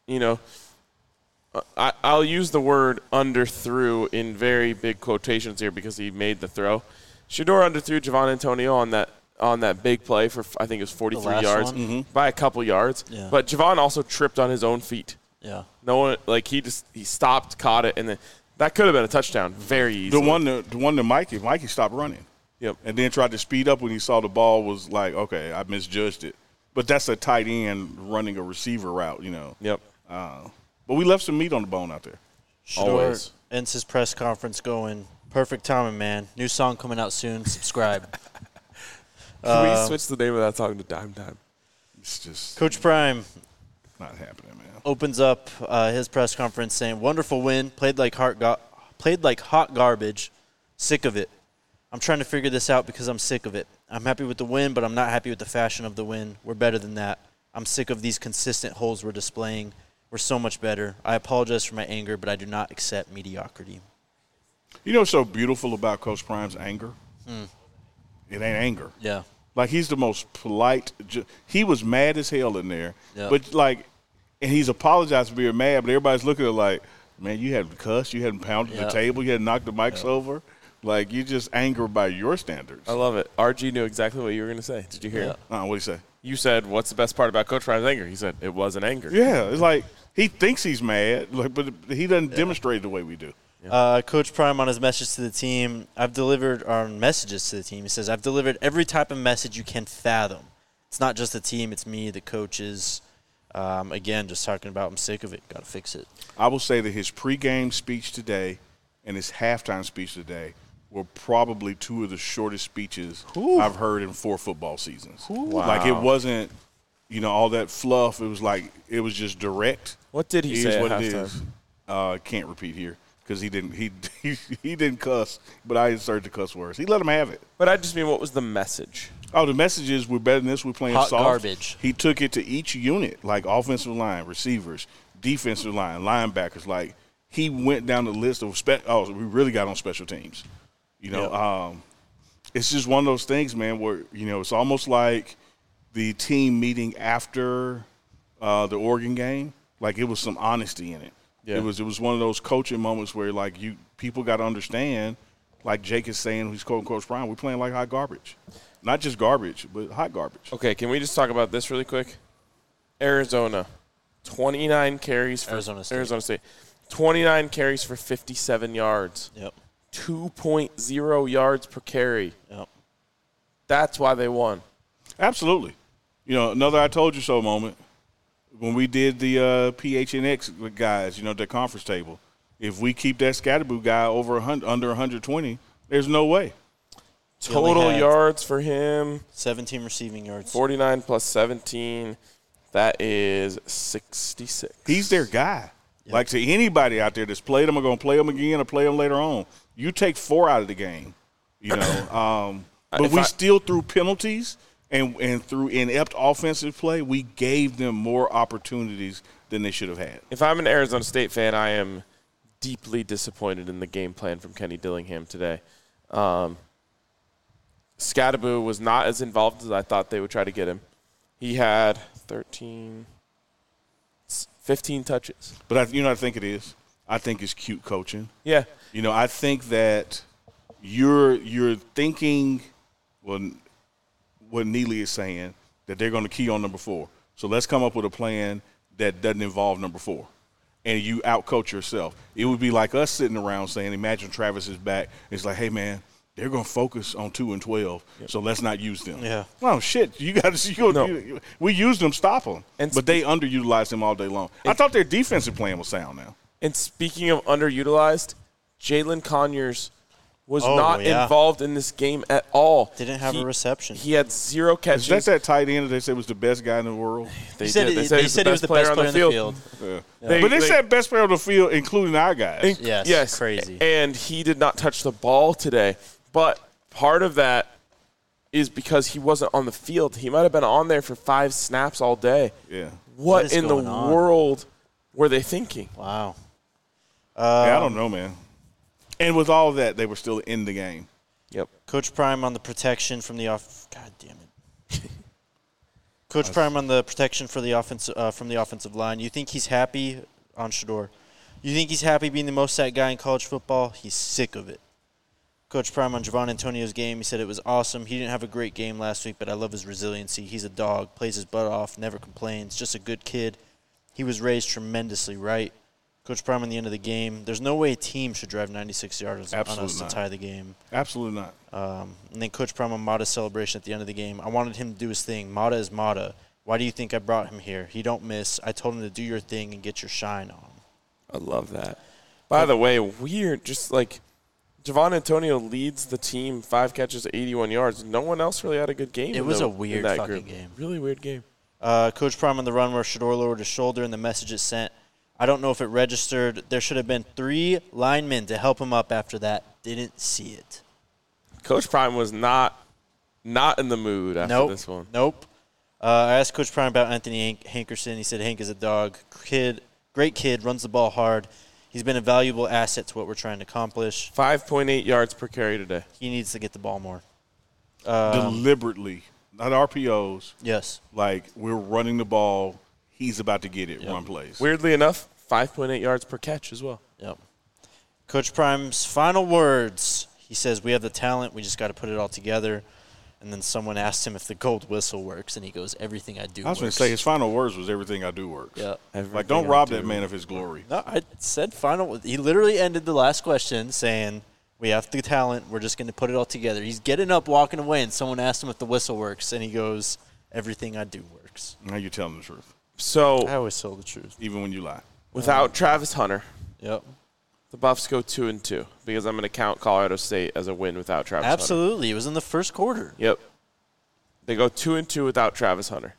I'll use the word underthrew in very big quotations here because he made the throw. Shedeur underthrew Javon Antonio on that big play for, I think it was 43 yards, by a couple yards. Yeah. But Javon also tripped on his own feet. Yeah. No one, he stopped, caught it, and then that could have been a touchdown very easily. The one to Mikey stopped running. Yep. And then tried to speed up when he saw the ball, was like, okay, I misjudged it. But that's a tight end running a receiver route, Yep. But we left some meat on the bone out there. Shedeur ends his press conference going, perfect timing, man. New song coming out soon. Subscribe. Can we switch the name of that song to Dime Time? It's just Coach Prime not happening, man. Opens up his press conference saying, wonderful win, played like hot garbage, sick of it. I'm trying to figure this out because I'm sick of it. I'm happy with the win, but I'm not happy with the fashion of the win. We're better than that. I'm sick of these consistent holes we're displaying. We're so much better. I apologize for my anger, but I do not accept mediocrity. You know what's so beautiful about Coach Prime's anger? It ain't anger. Yeah. Like, he's the most polite. He was mad as hell in there. Yep. But, and he's apologized for being mad, but everybody's looking at it like, man, you hadn't cussed, you hadn't pounded the table, you hadn't knocked the mics over. Like, you just anger by your standards. I love it. RG knew exactly what you were going to say. Did you hear it? What did he say? You said, what's the best part about Coach Prime's anger? He said, it wasn't anger. Yeah. It's like, he thinks he's mad, but he doesn't demonstrate it the way we do. Coach Prime on his message to the team, messages to the team, he says, I've delivered every type of message you can fathom. It's not just the team, it's me, the coaches. Again, just talking about I'm sick of it, got to fix it. I will say that his pregame speech today and his halftime speech today were probably two of the shortest speeches I've heard in 4 football seasons. Wow. Like, it wasn't, all that fluff. It was just direct. What did he say at halftime? Can't repeat here. because he didn't cuss, but I inserted the cuss words. He let him have it. But I just mean, what was the message? Oh, the message is we're better than this. We're playing hot soft. garbage. He took it to each unit, like offensive line, receivers, defensive line, linebackers. Like he went down the list of we really got on special teams. It's just one of those things, man, where it's almost like the team meeting after the Oregon game. Like it was some honesty in it. Yeah. It was one of those coaching moments where like people got to understand, like Jake is saying, who's quoting Coach Prime, we're playing like hot garbage. Not just garbage, but hot garbage. Okay, can we just talk about this really quick? Arizona, 29 carries for Arizona State. 29 carries for 57 yards. Yep. 2.0 yards per carry. Yep. That's why they won. Absolutely. Another I told you so moment. When we did the PHNX guys, the conference table, if we keep that Scatterboo guy under 120, there's no way. Total yards for him. 17 receiving yards. 49 plus 17. That is 66. He's their guy. Yep. Like to anybody out there that's played him or going to play him again or play him later on, you take 4 out of the game, But we still threw penalties. And through inept offensive play, we gave them more opportunities than they should have had. If I'm an Arizona State fan, I am deeply disappointed in the game plan from Kenny Dillingham today. Scatterboo was not as involved as I thought they would try to get him. He had 15 touches. But I think it is. I think it's cute coaching. Yeah. I think that you're thinking, well, what Neely is saying, that they're going to key on number 4. So let's come up with a plan that doesn't involve number 4. And you out-coach yourself. It would be like us sitting around saying, imagine Travis is back. It's like, hey, man, they're going to focus on 2 and 12, so let's not use them. Yeah. Well, shit, we used them, stop them. But they underutilized them all day long. I thought their defensive plan was sound now. And speaking of underutilized, Jalen Conyers was not involved in this game at all. Didn't have a reception. He had 0 catches. Is that tight end that they said was the best guy in the world? They said he was the best player on the field. Yeah. But they said best player on the field, including our guys. Yes. Crazy. And he did not touch the ball today. But part of that is because he wasn't on the field. He might have been on there for 5 snaps all day. Yeah. What in the world were they thinking? Wow. I don't know, man. And with all of that, they were still in the game. Yep. Coach Prime on the protection from the off. God damn it. Coach Prime on the protection for the from the offensive line. You think he's happy on Shedeur? You think he's happy being the most sacked guy in college football? He's sick of it. Coach Prime on Javon Antonio's game. He said it was awesome. He didn't have a great game last week, but I love his resiliency. He's a dog, plays his butt off, never complains, just a good kid. He was raised tremendously right. Coach Prime on the end of the game. There's no way a team should drive 96 yards on us to tie the game. Absolutely not. And then Coach Prime on Mata's celebration at the end of the game. I wanted him to do his thing. Mata is Mata. Why do you think I brought him here? He don't miss. I told him to do your thing and get your shine on. I love that. By the way, weird. Just like Javon Antonio leads the team, 5 catches, 81 yards. No one else really had a good game. It was a weird fucking game. Really weird game. Coach Prime on the run where Shedeur lowered his shoulder and the message it sent. I don't know if it registered. There should have been 3 linemen to help him up after that. Didn't see it. Coach Prime was not in the mood after this one. Nope. I asked Coach Prime about Anthony Hankerson. He said Hank is a dog. Great kid, runs the ball hard. He's been a valuable asset to what we're trying to accomplish. 5.8 yards per carry today. He needs to get the ball more. Deliberately, not RPOs. Yes. Like, we're running the ball. He's about to get it, run plays. Weirdly enough, 5.8 yards per catch as well. Yep. Coach Prime's final words. He says, we have the talent. We just got to put it all together. And then someone asked him if the gold whistle works, and he goes, everything I do works. I was going to say, his final words was everything I do works. Yeah. Like, don't rob that man of his glory. No, I said final. He literally ended the last question saying, we have the talent. We're just going to put it all together. He's getting up, walking away, and someone asked him if the whistle works, and he goes, everything I do works. Now you're telling the truth. So I always tell the truth. Even when you lie. Without Travis Hunter, yep, the Buffs go 2-2 because I'm going to count Colorado State as a win without Travis Hunter. Absolutely. It was in the first quarter. Yep. They go 2-2 without Travis Hunter.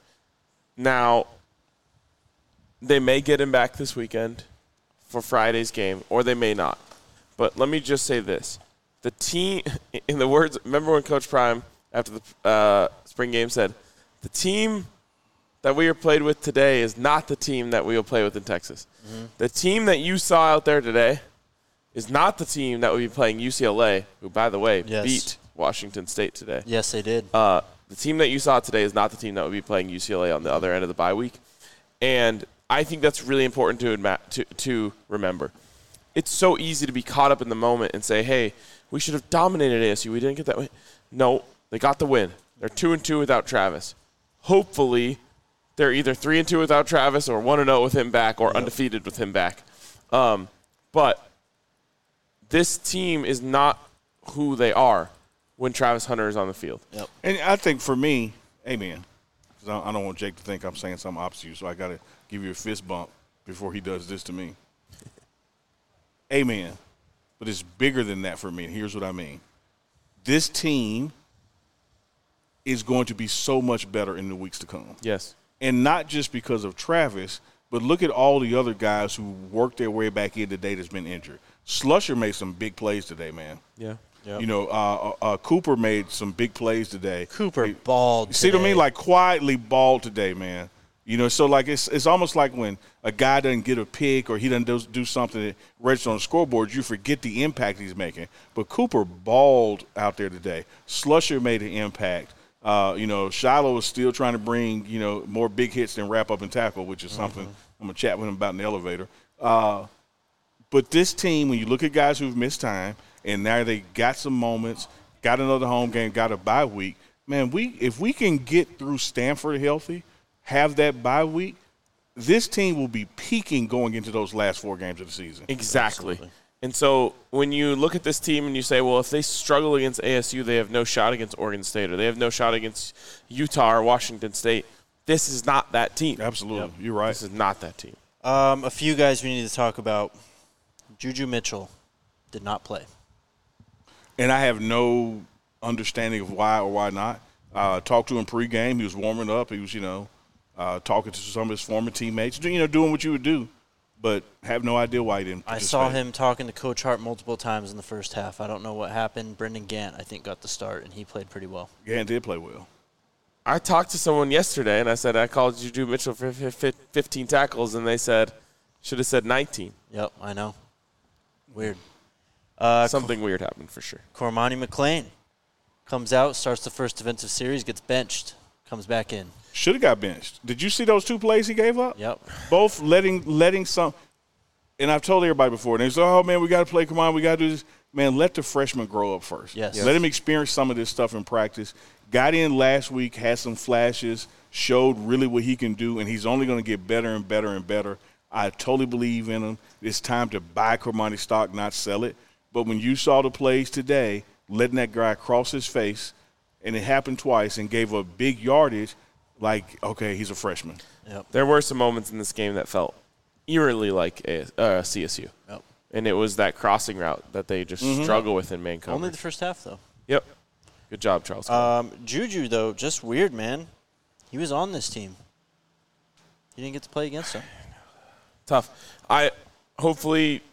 Now, they may get him back this weekend for Friday's game, or they may not. But let me just say this. The team, in the words, remember when Coach Prime, after the spring game, said, the team that we are played with today is not the team that we will play with in Texas. Mm-hmm. The team that you saw out there today is not the team that will be playing UCLA, who, by the way, beat Washington State today. Yes, they did. The team that you saw today is not the team that will be playing UCLA on the other end of the bye week. And I think that's really important to remember. It's so easy to be caught up in the moment and say, hey, we should have dominated ASU. We didn't get that way. No, they got the win. They're 2-2 without Travis. Hopefully, they're either 3-2 without Travis or 1-0 with him back or undefeated with him back. But this team is not who they are when Travis Hunter is on the field. Yep. And I think for me, amen, because I don't want Jake to think I'm saying something opposite you, so I got to give you a fist bump before he does this to me. Amen. But it's bigger than that for me, and here's what I mean. This team is going to be so much better in the weeks to come. Yes. And not just because of Travis, but look at all the other guys who worked their way back in today that's been injured. Slusher made some big plays today, man. Yeah. Yep. You know, Cooper made some big plays today. Cooper balled today. See what I mean? Like, quietly balled today, man. You know, so, like, it's almost like when a guy doesn't get a pick or he doesn't do something that registers on the scoreboard, you forget the impact he's making. But Cooper balled out there today. Slusher made an impact. You know, Shiloh is still trying to bring, you know, more big hits than wrap up and tackle, which is something I'm going to chat with him about in the elevator. But this team, when you look at guys who've missed time, and now they got some moments, got another home game, got a bye week, man, if we can get through Stanford healthy, have that bye week, this team will be peaking going into those last 4 games of the season. Exactly. Absolutely. And so when you look at this team and you say, well, if they struggle against ASU, they have no shot against Oregon State, or they have no shot against Utah or Washington State, this is not that team. Absolutely. Yep. You're right. This is not that team. A few guys we need to talk about. Juju Mitchell did not play. And I have no understanding of why or why not. Talked to him pregame. He was warming up. He was, you know, talking to some of his former teammates, you know, doing what you would do. But have no idea why he didn't participate. I saw him talking to Coach Hart multiple times in the first half. I don't know what happened. Brendan Gant, I think, got the start, and he played pretty well. Gant did play well. I talked to someone yesterday, and I said I called Juju Mitchell for 15 tackles, and they said, should have said 19. Yep, I know. Weird. Something weird happened for sure. Cormani McClain comes out, starts the first defensive series, gets benched, comes back in. Should have got benched. Did you see those 2 plays he gave up? Yep. Both letting some – and I've told everybody before, and they say, oh, man, we got to play. Come on, we got to do this. Man, let the freshman grow up first. Yes. Let him experience some of this stuff in practice. Got in last week, had some flashes, showed really what he can do, and he's only going to get better and better and better. I totally believe in him. It's time to buy Cormani stock, not sell it. But when you saw the plays today, letting that guy cross his face, and it happened twice, and gave a big yardage, like, okay, he's a freshman. Yep. There were some moments in this game that felt eerily like CSU. Yep. And it was that crossing route that they just struggle with in man coverage. Only the first half, though. Yep. Good job, Charles. Juju, though, just weird, man. He was on this team. He didn't get to play against him. Tough. Hopefully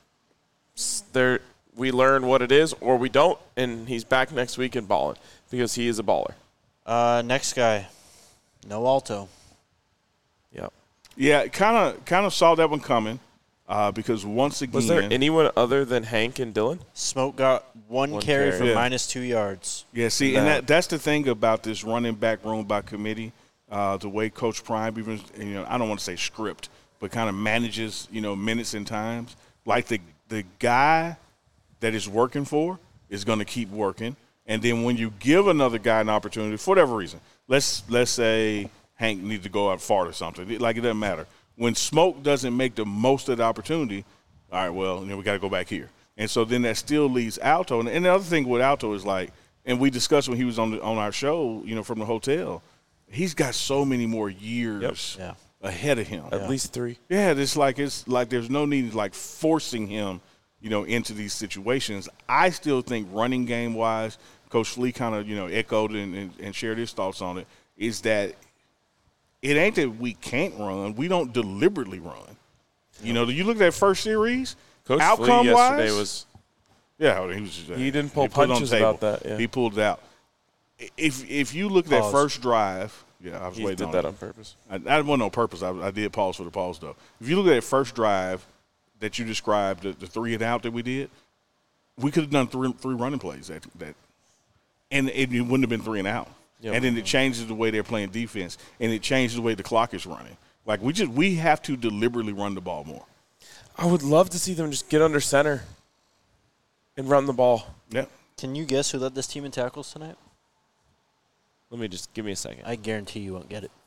we learn what it is, or we don't, and he's back next week and balling, because he is a baller. Next guy, no Alto. Yep. Yeah, kind of saw that one coming, because once again, was there anyone other than Hank and Dylan? Smoke got one carry for -2 yards. Yeah, see, and that's the thing about this running back room by committee, the way Coach Prime even, you know, I don't want to say script, but kind of manages, you know, minutes and times. Like the guy that is working for is going to keep working, and then when you give another guy an opportunity for whatever reason, let's say Hank needs to go out far or something, like it doesn't matter. When Smoke doesn't make the most of the opportunity, all right, well, you know, we got to go back here, and so then that still leaves Alto. And the other thing with Alto is, like, and we discussed when he was on our show, you know, from the hotel, he's got so many more years. Yeah. Ahead of him. At least 3. Yeah, it's like there's no need like forcing him, you know, into these situations. I still think running game wise, Coach Flea kind of, you know, echoed and shared his thoughts on it, is that it ain't that we can't run. We don't deliberately run. You know, you look at that first series, Coach outcome Flea yesterday wise, was Yeah, he didn't pull punches about that. Yeah. He pulled it out. If you look at that first drive, I was waiting on that on purpose. I wasn't on purpose. I did pause for the pause, though. If you look at that first drive that you described, the 3 and out that we did, we could have done three running plays and it wouldn't have been 3 and out. Yep. And then it changes the way they're playing defense, and it changes the way the clock is running. Like, we have to deliberately run the ball more. I would love to see them just get under center and run the ball. Yeah. Can you guess who led this team in tackles tonight? Give me a second. I guarantee you won't get it.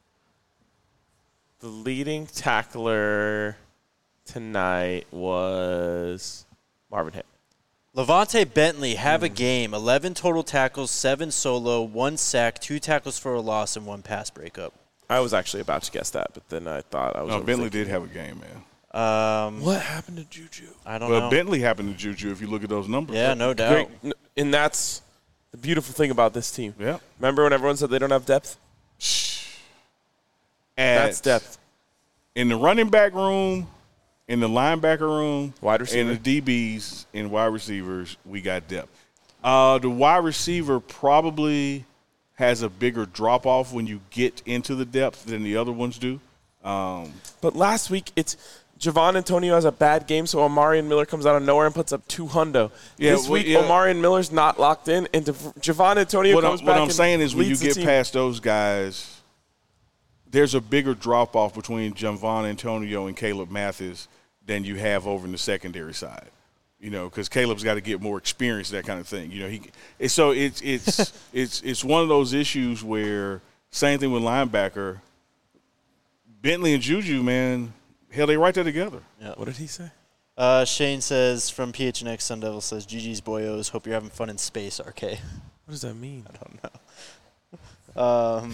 The leading tackler tonight was Marvin Hitt. Levante Bentley have a game. 11 total tackles, 7 solo, 1 sack, 2 tackles for a loss, and 1 pass breakup. I was actually about to guess that, but then I thought I was. No, Bentley did have a game, man. What happened to Juju? I don't know. Well, Bentley happened to Juju if you look at those numbers. Yeah, no doubt. And that's the beautiful thing about this team. Yeah. Remember when everyone said they don't have depth? That's depth. In the running back room, in the linebacker room, wide receiver, in the DBs, and wide receivers, we got depth. The wide receiver probably has a bigger drop-off when you get into the depth than the other ones do. But last week, it's Javon Antonio has a bad game, so Omarion Miller comes out of nowhere and puts up 200. Yeah, this week, Omarion Miller's not locked in, and Javon Antonio comes back. What I'm saying is when you get past those guys, there's a bigger drop-off between Javon Antonio and Caleb Mathis than you have over in the secondary side. Because Caleb's got to get more experience, that kind of thing. So it's one of those issues where, same thing with linebacker, Bentley and Juju, man, hell, they right there together. Yeah. What did he say? Shane says from PHNX Sun Devil says, GG's boyos, hope you're having fun in space, RK. What does that mean? I don't know.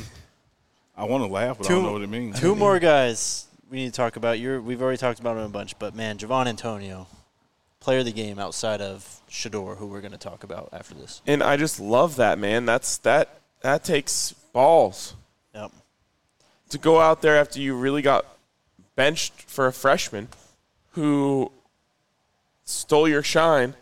I want to laugh, but I don't know what it means. 2 more guys we need to talk about. We've already talked about him a bunch, but, man, Javon Antonio, player of the game outside of Shedeur, who we're going to talk about after this. And I just love that, man. That takes balls. Yep. To go out there after you really got benched for a freshman who stole your shine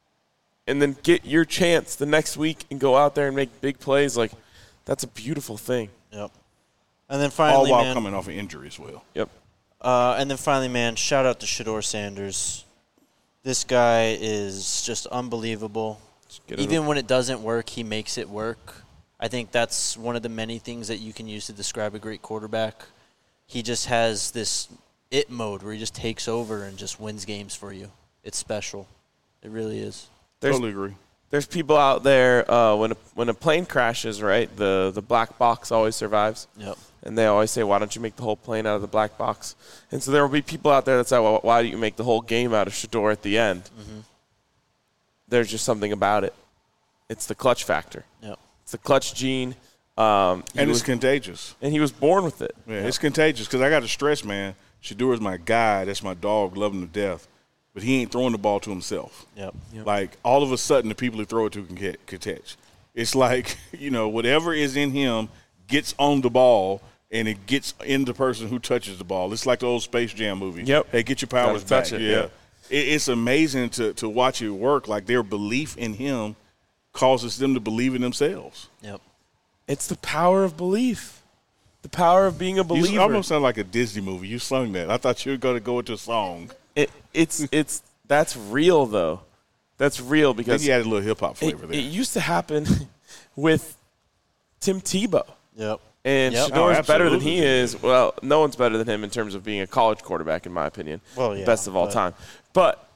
and then get your chance the next week and go out there and make big plays, like, that's a beautiful thing. Yep. And then finally, all while coming off an injury as well. Yep. And then finally, man, shout out to Shedeur Sanders. This guy is just unbelievable. Even when it doesn't work, he makes it work. I think that's one of the many things that you can use to describe a great quarterback. He just has this it mode where he just takes over and just wins games for you. It's special. It really is. Totally agree. There's people out there, when a plane crashes, right, the black box always survives. Yep. And they always say, why don't you make the whole plane out of the black box? And so there will be people out there that say, well, why do you make the whole game out of Shedeur at the end? Mm-hmm. There's just something about it. It's the clutch factor. Yep. It's the clutch gene. And it's contagious. And he was born with it. Yeah, it's contagious because I got to stress, man, Shedeur is my guy. That's my dog. Love him to death. But he ain't throwing the ball to himself. Yep. Like, all of a sudden, the people who throw it to can catch. It's like, whatever is in him gets on the ball, and it gets in the person who touches the ball. It's like the old Space Jam movie. Yep. Hey, get your powers back. Touch it. Yeah. It's amazing to watch it work. Like, their belief in him causes them to believe in themselves. Yep. It's the power of belief. The power of being a believer. You almost sound like a Disney movie. You sung that. I thought you were going to go into a song. It's that's real, though. That's real because you added a little hip-hop flavor there. It used to happen with Tim Tebow. Yep. And Shedeur is better than he is. Well, no one's better than him in terms of being a college quarterback, in my opinion. Well, yeah. Best of all time. But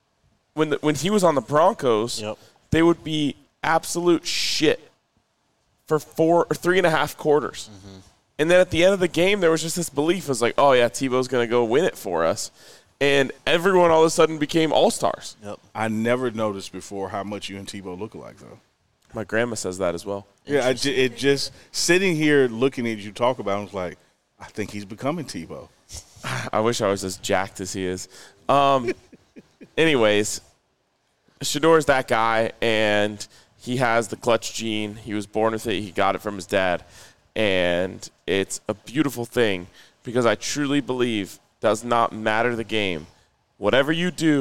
when he was on the Broncos, they would be absolute shit for 4 or 3.5 quarters. Mm-hmm. And then at the end of the game, there was just this belief. It was like, oh, yeah, Tebow's going to go win it for us. And everyone all of a sudden became all-stars. Yep. I never noticed before how much you and Tebow look alike, though. My grandma says that as well. Yeah, it just sitting here looking at you talk about it, I was like, I think he's becoming Tebow. I wish I was as jacked as he is. Anyways, Shedeur's that guy, and he has the clutch gene. He was born with it. He got it from his dad. And it's a beautiful thing because I truly believe does not matter the game. Whatever you do,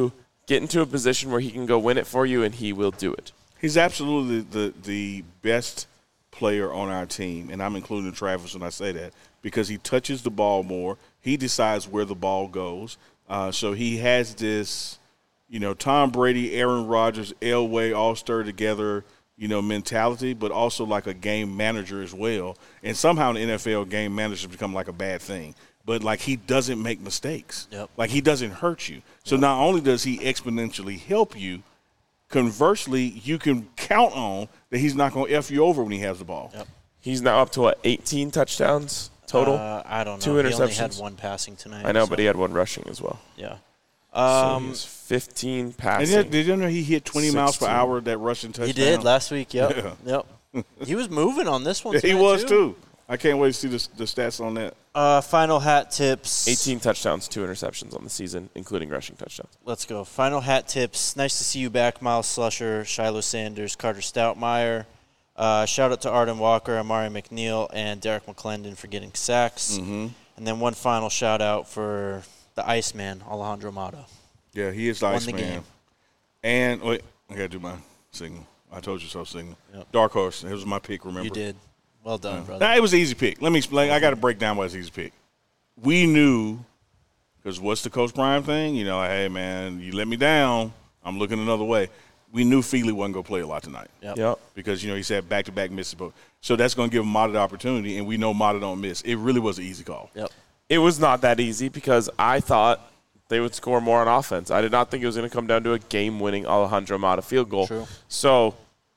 get into a position where he can go win it for you, and he will do it. He's absolutely the best player on our team, and I'm including Travis when I say that, because he touches the ball more. He decides where the ball goes. So he has this, Tom Brady, Aaron Rodgers, Elway all stirred together, mentality, but also like a game manager as well. And somehow in the NFL, game managers become like a bad thing. But, like, he doesn't make mistakes. Yep. Like, he doesn't hurt you. So not only does he exponentially help you, conversely, you can count on that he's not going to F you over when he has the ball. Yep. He's now up to, 18 touchdowns total? I don't know. 2 interceptions. He only had 1 passing tonight. I know, but he had 1 rushing as well. Yeah. So he has 15 passing. And did you know he hit 20 miles per hour, that rushing touchdown? He did last week, yep. Yep. He was moving on this one He was, too. I can't wait to see the stats on that. Final hat tips. 18 touchdowns, 2 interceptions on the season, including rushing touchdowns. Let's go. Final hat tips. Nice to see you back, Miles Slusher, Shiloh Sanders, Carter Stoutmeyer. Shout out to Arden Walker, Amari McNeil, and Derek McClendon for getting sacks. Mm-hmm. And then one final shout out for the Iceman, Alejandro Mata. Yeah, he is the Iceman. game. And, wait, I got to do my signal. I told you so signal. Yep. Dark Horse. It was my pick, remember? You did. Well done, brother. Nah, it was an easy pick. Let me explain. I got to break down why it's an easy pick. We knew, because what's the Coach Prime thing? Hey, man, you let me down, I'm looking another way. We knew Feely wasn't going to play a lot tonight. Yep. Because, he said back-to-back misses. So that's going to give Mata the opportunity, and we know Mata don't miss. It really was an easy call. Yep. It was not that easy because I thought they would score more on offense. I did not think it was going to come down to a game-winning Alejandro Mata field goal. True. So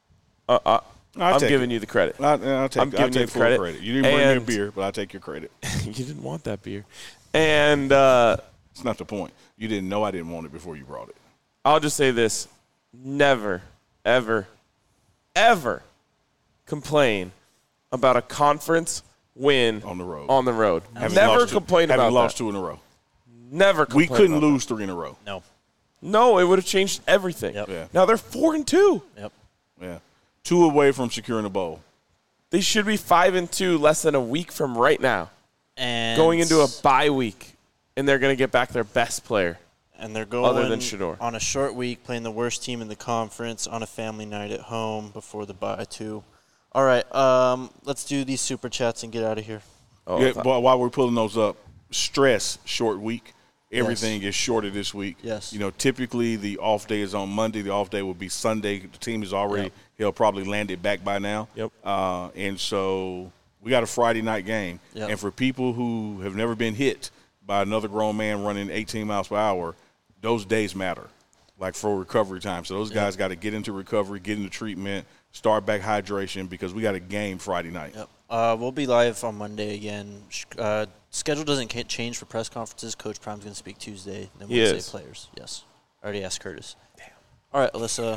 I'm giving you the credit. I'll take full credit. You didn't bring me a beer, but I'll take your credit. You didn't want that beer. And it's not the point. You didn't know I didn't want it before you brought it. I'll just say this. Never, ever, ever complain about a conference win on the road. Never complain about that. Having lost 2 in a row. Never complain. We couldn't lose 3 in a row. No, it would have changed everything. Yep. Yeah. Now they're 4-2. Yep. Yeah. 2 away from securing a bowl. They should be 5-2 less than a week from right now. And going into a bye week, and they're going to get back their best player. And they're going other than Shedeur. On a short week, playing the worst team in the conference on a family night at home before the bye, too. All right, let's do these super chats and get out of here. But while we're pulling those up, stress, short week. Everything is shorter this week. Yes. Typically the off day is on Monday. The off day will be Sunday. The team is already he'll probably landed back by now. Yep. And so we got a Friday night game. Yep. And for people who have never been hit by another grown man running 18 miles per hour, those days matter, like for recovery time. So those guys got to get into recovery, get into treatment, start back hydration because we got a game Friday night. Yep. We'll be live on Monday again. Schedule doesn't change for press conferences. Coach Prime's going to speak Tuesday. Then Wednesday players. Yes. I already asked Curtis. Damn. All right, Alyssa.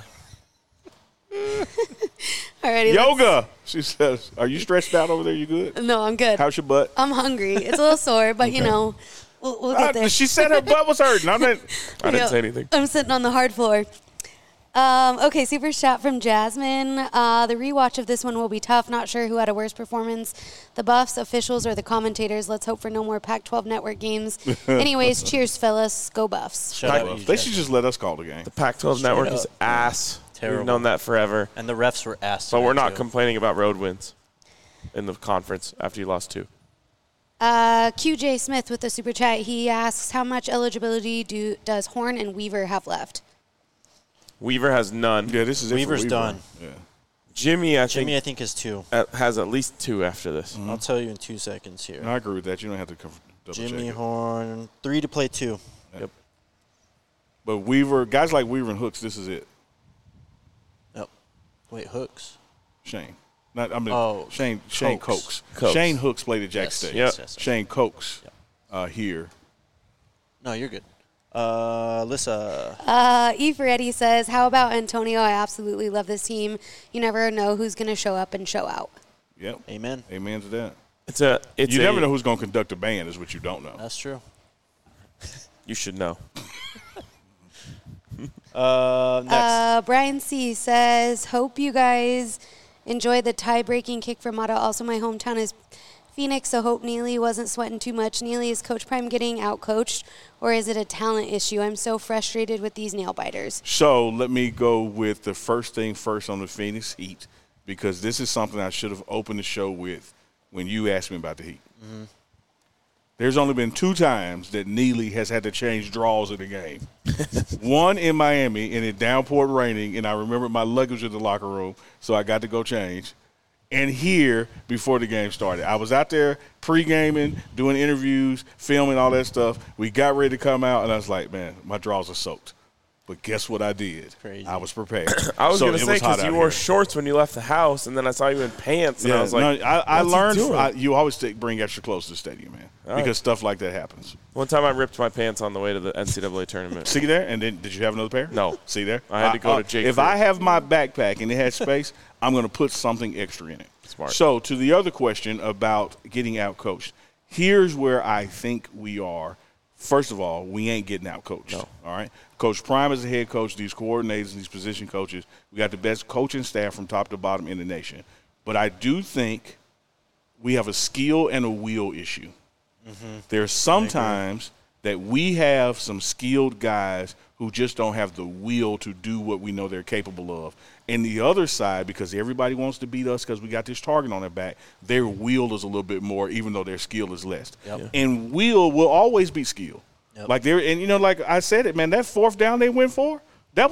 Alrighty. Yoga, she says. Are you stretched out over there? You good? No, I'm good. How's your butt? I'm hungry. It's a little sore, but we'll get there. She said her butt was hurting. I didn't say anything. I'm sitting on the hard floor. Okay, super chat from Jasmine. The rewatch of this one will be tough. Not sure who had a worse performance, the Buffs, officials, or the commentators. Let's hope for no more Pac-12 network games. Anyways, cheers, fellas. Go Buffs. They should just let us call the game. The Pac-12 network is ass. Terrible. We've known that forever. And the refs were ass. But we're not complaining about road wins in the conference after you lost 2. QJ Smith with the super chat. He asks, how much eligibility does Horn and Weaver have left? Weaver has none. Yeah, this is Weaver's Weaver. done. Yeah. Jimmy, I think has 2. Has at least 2 after this. Mm-hmm. I'll tell you in 2 seconds here. No, I agree with that. You don't have to double Jimmy check Horn, 3 to play 2. Yep. But Weaver, guys like Weaver and Hooks, this is it. Yep. Wait, Hooks? Shane. Shane Cokes. Shane Hooks played at Jack State. Yes. Shane Cokes here. No, you're good. Alyssa. Eddie says, how about Antonio? I absolutely love this team. You never know who's going to show up and show out. Yep. Amen. Amen to that. You never know who's going to conduct a band is what you don't know. That's true. You should know. Next. Brian C. says, hope you guys enjoy the tie-breaking kick from Mata. Also, my hometown is Phoenix, so hope Neely wasn't sweating too much. Neely, is Coach Prime getting out-coached, or is it a talent issue? I'm so frustrated with these nail-biters. So let me go with the first thing first on the Phoenix Heat, because this is something I should have opened the show with when you asked me about the Heat. Mm-hmm. There's only been 2 times that Neely has had to change draws in the game. One in Miami, and it downpoured raining, and I remembered my luggage in the locker room, so I got to go change. And here before the game started. I was out there pre-gaming, doing interviews, filming, all that stuff. We got ready to come out, and I was like, man, my draws are soaked. But guess what I did? Crazy. I was prepared. I was going to say, because you wore shorts when you left the house, and then I saw you in pants, and I was like, I learned you always bring extra clothes to the stadium, man, because stuff like that happens. One time I ripped my pants on the way to the NCAA tournament. See there? And then did you have another pair? No. See there? I had to go to Jake. If I have my backpack and it has space, I'm going to put something extra in it. Smart. So to the other question about getting out-coached, here's where I think we are. First of all, we ain't getting out-coached. No. All right? Coach Prime is the head coach, these coordinators, these position coaches. We got the best coaching staff from top to bottom in the nation. But I do think we have a skill and a will issue. Mm-hmm. There's sometimes that we have some skilled guys who just don't have the will to do what we know they're capable of. And the other side, because everybody wants to beat us because we got this target on their back, their will is a little bit more, even though their skill is less. Yep. Yeah. And will always beat skill. Yep. Like like I said it, man, that 4th down they went for, that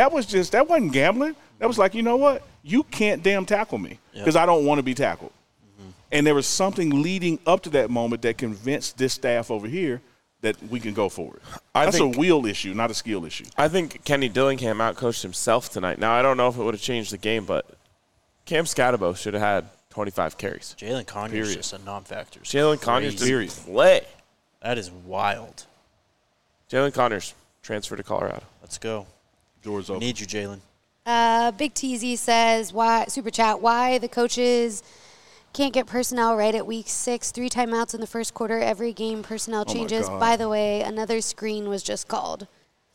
wasn't gambling. That was like, you know what? You can't damn tackle me because I don't want to be tackled. Mm-hmm. And there was something leading up to that moment that convinced this staff over here that we can go forward. That's a will issue, not a skill issue. I think Kenny Dillingham outcoached himself tonight. Now, I don't know if it would have changed the game, but Cam Scatabo should have had 25 carries. Jalen Conyers just a non-factor. Jalen Conyers didn't play. That is wild. Jalen Conyers transferred to Colorado. Let's go. Doors open. Need you, Jalen. Big TZ says, why Super Chat, why the coaches can't get personnel right at week 6, 3 timeouts in the first quarter, every game personnel changes. By the way, another screen was just called.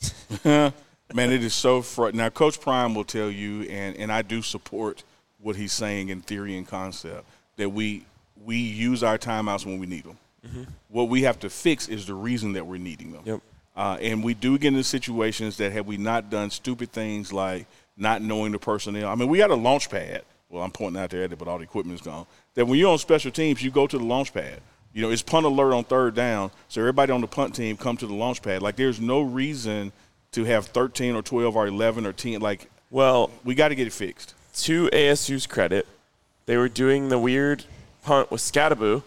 Man, it is so frustrating. Now, Coach Prime will tell you, and I do support what he's saying in theory and concept, that we use our timeouts when we need them. Mm-hmm. What we have to fix is the reason that we're needing them. Yep. And we do get into situations that have we not done stupid things like not knowing the personnel. I mean, we had a launch pad. Well, I'm pointing out there at it, but all the equipment is gone. That when you're on special teams, you go to the launch pad. You know, it's punt alert on 3rd down, so everybody on the punt team come to the launch pad. Like, there's no reason to have 13 or 12 or 11 or 10. Like, well, we got to get it fixed. To ASU's credit, they were doing the weird punt with Scatabo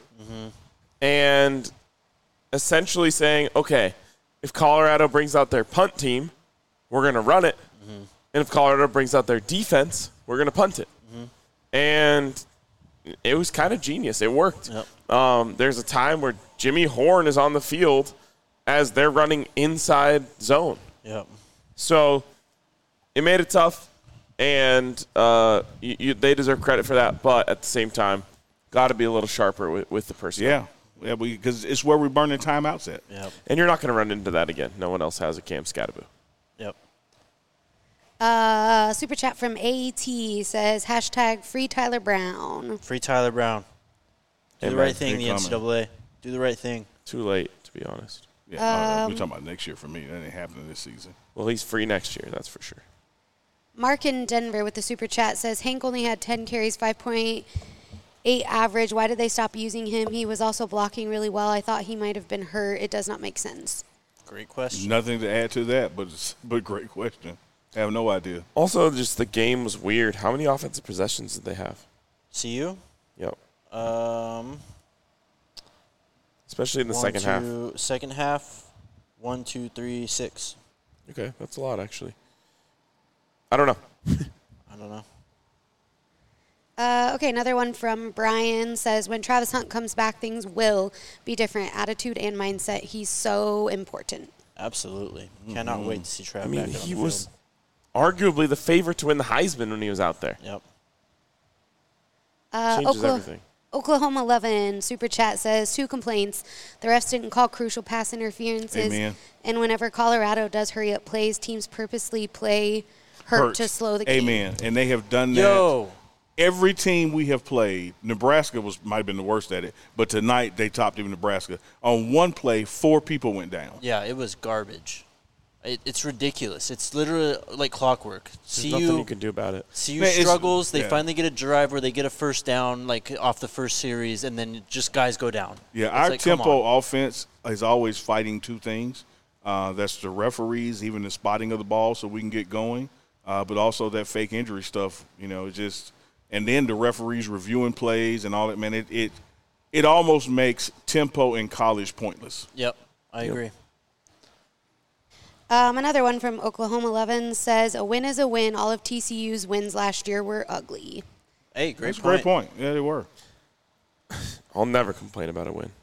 and essentially saying, okay, if Colorado brings out their punt team, we're going to run it. Mm-hmm. And if Colorado brings out their defense, we're going to punt it. Mm-hmm. And it was kind of genius. It worked. Yep. There's a time where Jimmy Horn is on the field as they're running inside zone. Yep. So it made it tough, and they deserve credit for that. But at the same time, got to be a little sharper with the personnel. Yeah, because it's where we're burning timeouts at. Yep. And you're not going to run into that again. No one else has a Cam Scatabo. Yep. Super chat from AT says, hashtag free Tyler Brown. Free Tyler Brown. Do the right thing, the NCAA. Do the right thing. Too late, to be honest. Yeah, we're talking about next year for me. That ain't happening this season. Well, he's free next year, that's for sure. Mark in Denver with the super chat says, Hank only had 10 carries, 5.8 average. Why did they stop using him? He was also blocking really well. I thought he might have been hurt. It does not make sense. Great question. Nothing to add to that, but great question. I have no idea. Also, just the game was weird. How many offensive possessions did they have? CU? Yep. Especially in the second half. Second half, 1, 2, 3, 6. Okay, that's a lot, actually. I don't know. I don't know. Okay, another one from Brian says, when Travis Hunt comes back, things will be different. Attitude and mindset. He's so important. Absolutely. Cannot wait to see Travis back on the field. He was arguably the favorite to win the Heisman when he was out there. Yep. Changes everything. Oklahoma 11 super chat says 2 complaints. The refs didn't call crucial pass interferences. Amen. And whenever Colorado does hurry up plays, teams purposely play hurt to slow the game. Amen. And they have done that Every team we have played, Nebraska might have been the worst at it, but tonight they topped even Nebraska. On one play, 4 people went down. Yeah, it was garbage. It's ridiculous. It's literally like clockwork. There's nothing you can do about it. CU struggles. They finally get a drive where they get a first down, like off the first series, and then just guys go down. Yeah, our tempo offense is always fighting 2 things. That's the referees, even the spotting of the ball so we can get going, but also that fake injury stuff, and then the referees reviewing plays and all that, man, it almost makes tempo in college pointless. Yep, I agree. Another one from Oklahoma 11 says, a win is a win. All of TCU's wins last year were ugly. Hey, great point. Great point. Yeah, they were. I'll never complain about a win.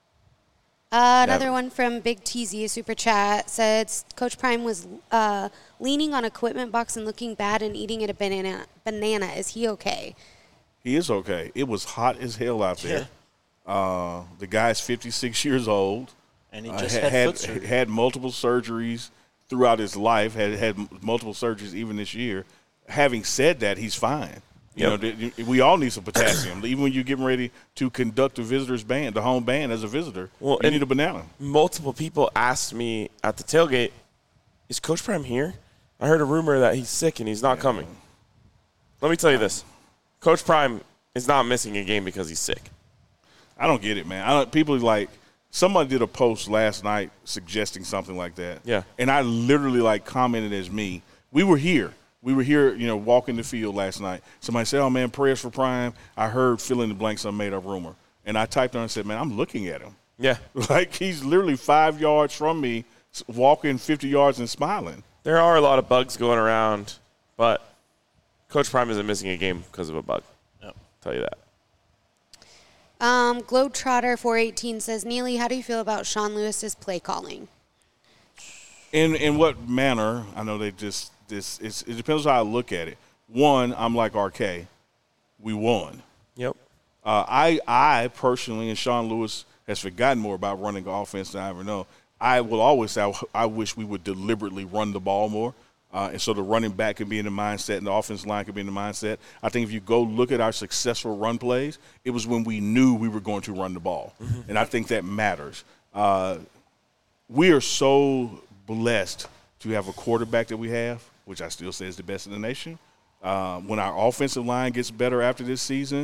Another one from Big TZ, a super chat, said Coach Prime was leaning on equipment box and looking bad and eating a banana. Is he okay? He is okay. It was hot as hell out there. The guy's 56 years old. And he just had multiple surgeries throughout his life, had multiple surgeries even this year. Having said that, he's fine. We all need some potassium. Even when you're getting ready to conduct a visitor's band, the home band as a visitor, you need a banana. Multiple people asked me at the tailgate, is Coach Prime here? I heard a rumor that he's sick and he's not coming. Let me tell you this. Coach Prime is not missing a game because he's sick. I don't get it, man. People like – somebody did a post last night suggesting something like that. Yeah. And I literally commented as me. We were here, walking the field last night. Somebody said, oh, man, prayers for Prime. I heard fill in the blank some made up rumor. And I typed on and said, man, I'm looking at him. Yeah. He's literally 5 yards from me, walking 50 yards and smiling. There are a lot of bugs going around, but Coach Prime isn't missing a game because of a bug. Yep. I'll tell you that. Globetrotter 418 says, Neely, how do you feel about Sean Lewis's play calling? In what manner? I know it depends on how I look at it. One, I'm like RK. We won. Yep. I personally, and Sean Lewis has forgotten more about running offense than I ever know. I will always say I wish we would deliberately run the ball more. And so the running back can be in the mindset and the offensive line can be in the mindset. I think if you go look at our successful run plays, it was when we knew we were going to run the ball. Mm-hmm. And I think that matters. We are so blessed to have a quarterback that we have, which I still say is the best in the nation. When our offensive line gets better after this season,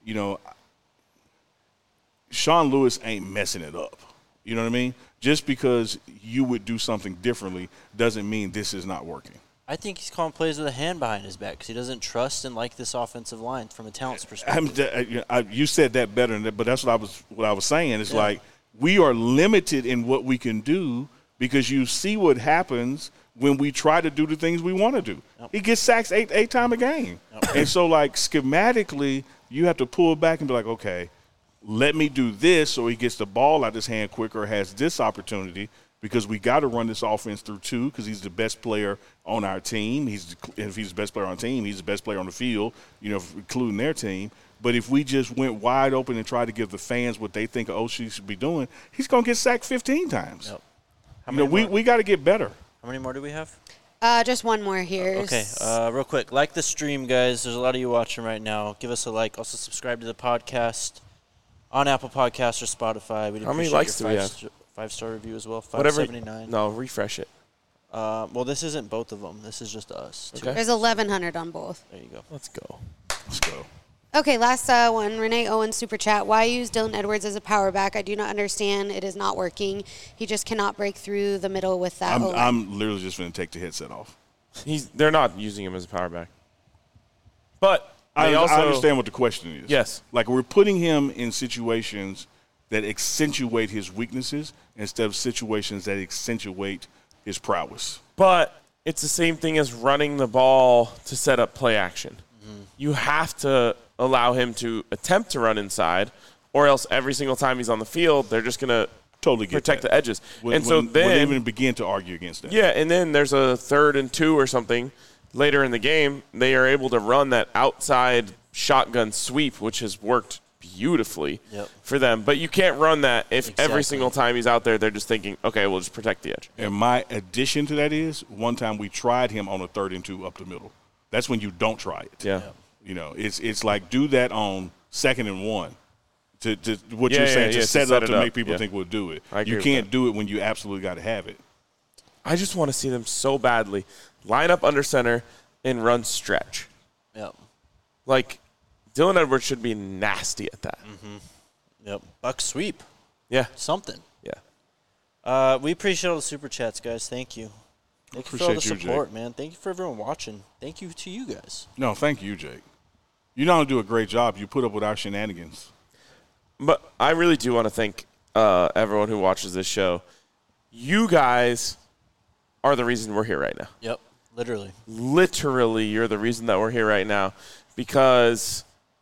Sean Lewis ain't messing it up. You know what I mean? Just because you would do something differently doesn't mean this is not working. I think he's calling plays with a hand behind his back because he doesn't trust and like this offensive line from a talent's perspective. You said that better than that, but that's what I was saying. It's like we are limited in what we can do because you see what happens when we try to do the things we want to do. Yep. He gets sacks eight times a game. Yep. And so, schematically, you have to pull back and be like, okay, let me do this so he gets the ball out of his hand quicker, has this opportunity, because we got to run this offense through 2 because he's the best player on our team. If he's the best player on the team, he's the best player on the field, including their team. But if we just went wide open and tried to give the fans what they think OC should be doing, he's going to get sacked 15 times. Yep. We got to get better. How many more do we have? Just one more here. Okay, real quick. Like the stream, guys. There's a lot of you watching right now. Give us a like. Also subscribe to the podcast on Apple Podcasts or Spotify. How many likes do we have? 5-star review as well. 579. No, refresh it. Well, this isn't both of them. This is just us. Okay. There's 1,100 on both. There you go. Let's go. Okay, last one. Renee Owen super chat. Why use Dylan Edwards as a power back? I do not understand. It is not working. He just cannot break through the middle with that. I'm literally just going to take the headset off. They're not using him as a power back. But I understand what the question is. Yes. We're putting him in situations that accentuate his weaknesses instead of situations that accentuate his prowess. But it's the same thing as running the ball to set up play action. Mm-hmm. You have to allow him to attempt to run inside, or else every single time he's on the field, they're just going to totally protect the edges. Wouldn't even begin to argue against that. Yeah, and then there's a 3rd and 2 or something. Later in the game, they are able to run that outside shotgun sweep, which has worked beautifully for them. But you can't run that if every single time he's out there, they're just thinking, okay, we'll just protect the edge. And my addition to that is one time we tried him on a 3rd and 2 up the middle. That's when you don't try it. Yeah. It's like do that on 2nd and 1. To what you're saying, to set up to make people think we'll do it. You can't do it when you absolutely got to have it. I just want to see them so badly line up under center and run stretch. Yep. Like, Dylan Edwards should be nasty at that. Mm-hmm. Yep. Buck sweep. Yeah. Something. Yeah. We appreciate all the super chats, guys. Thank you. Thank you for all the support, man. Thank you for everyone watching. Thank you to you guys. No, thank you, Jake. You not only do a great job, you put up with our shenanigans. But I really do want to thank everyone who watches this show. You guys are the reason we're here right now. Yep, literally. Literally, you're the reason that we're here right now because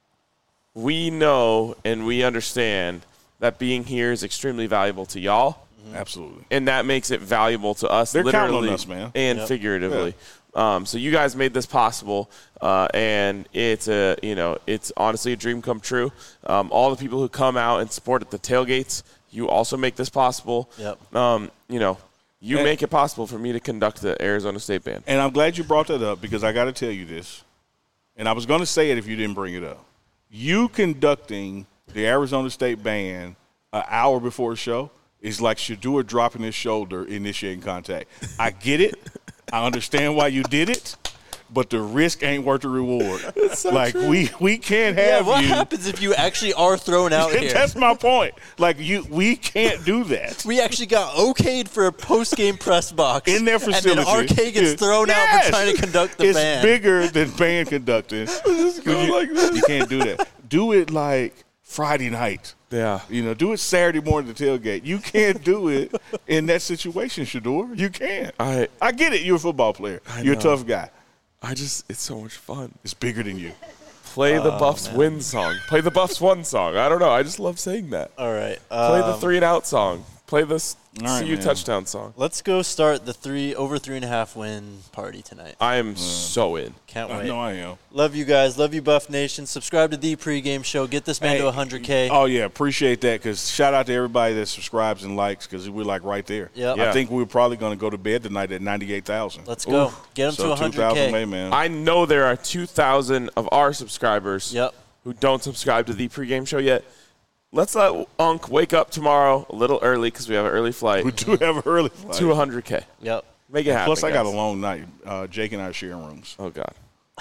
we know and we understand that being here is extremely valuable to y'all. Mm-hmm. Absolutely. And that makes it valuable to us. They're literally counting on us, man. And figuratively. Yeah. So you guys made this possible, and it's honestly a dream come true. All the people who come out and support at the tailgates, you also make this possible. Yep. You make it possible for me to conduct the Arizona State Band. And I'm glad you brought that up because I got to tell you this, and I was going to say it if you didn't bring it up. You conducting the Arizona State Band an hour before the show is like Shedeur dropping his shoulder, initiating contact. I get it. I understand why you did it, but the risk ain't worth the reward. So like true. we can't have what you. What happens if you actually are thrown out here? That's my point. Like we can't do that. We actually got okayed for a post-game press box In their facility. And then RK gets thrown out for trying to conduct the band. It's bigger than band conducting. You can't do that. Do it like Friday night. Yeah. Do it Saturday morning at the tailgate. You can't do it in that situation, Shedeur. You can't. I get it. You're a football player. You're a tough guy. It's so much fun. It's bigger than you. Play the Buffs win song. Play the Buffs one song. I don't know. I just love saying that. All right. Play the 3 and out song. Play the CU man. touchdown song. Let's go start the over 3.5 win party tonight. I am so in. Can't wait. I know I am. Love you guys. Love you, Buff Nation. Subscribe to the pregame show. Get this man to 100K. Oh, yeah. Appreciate that because shout out to everybody that subscribes and likes because we're like right there. Yep. I think we're probably going to go to bed tonight at 98,000. Let's go. Get them to 100K. Man. I know there are 2,000 of our subscribers who don't subscribe to the pregame show yet. Let's let Unc wake up tomorrow a little early because we have an early flight. We do have an early flight. To 100K. Yep. Make it happen. Plus, I guys. got a long night. Jake and I are sharing rooms. Oh, God.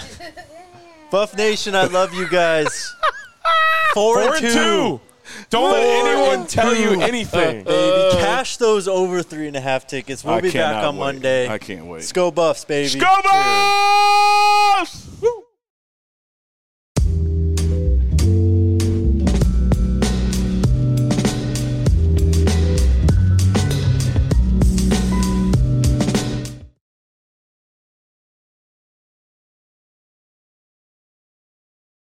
Buff Nation, I love you guys. 4-2. Don't let anyone tell you anything. Baby, cash those over 3.5 tickets. We'll be back on Monday. I can't wait. Let's go Buffs, baby. Go Buffs! Woo!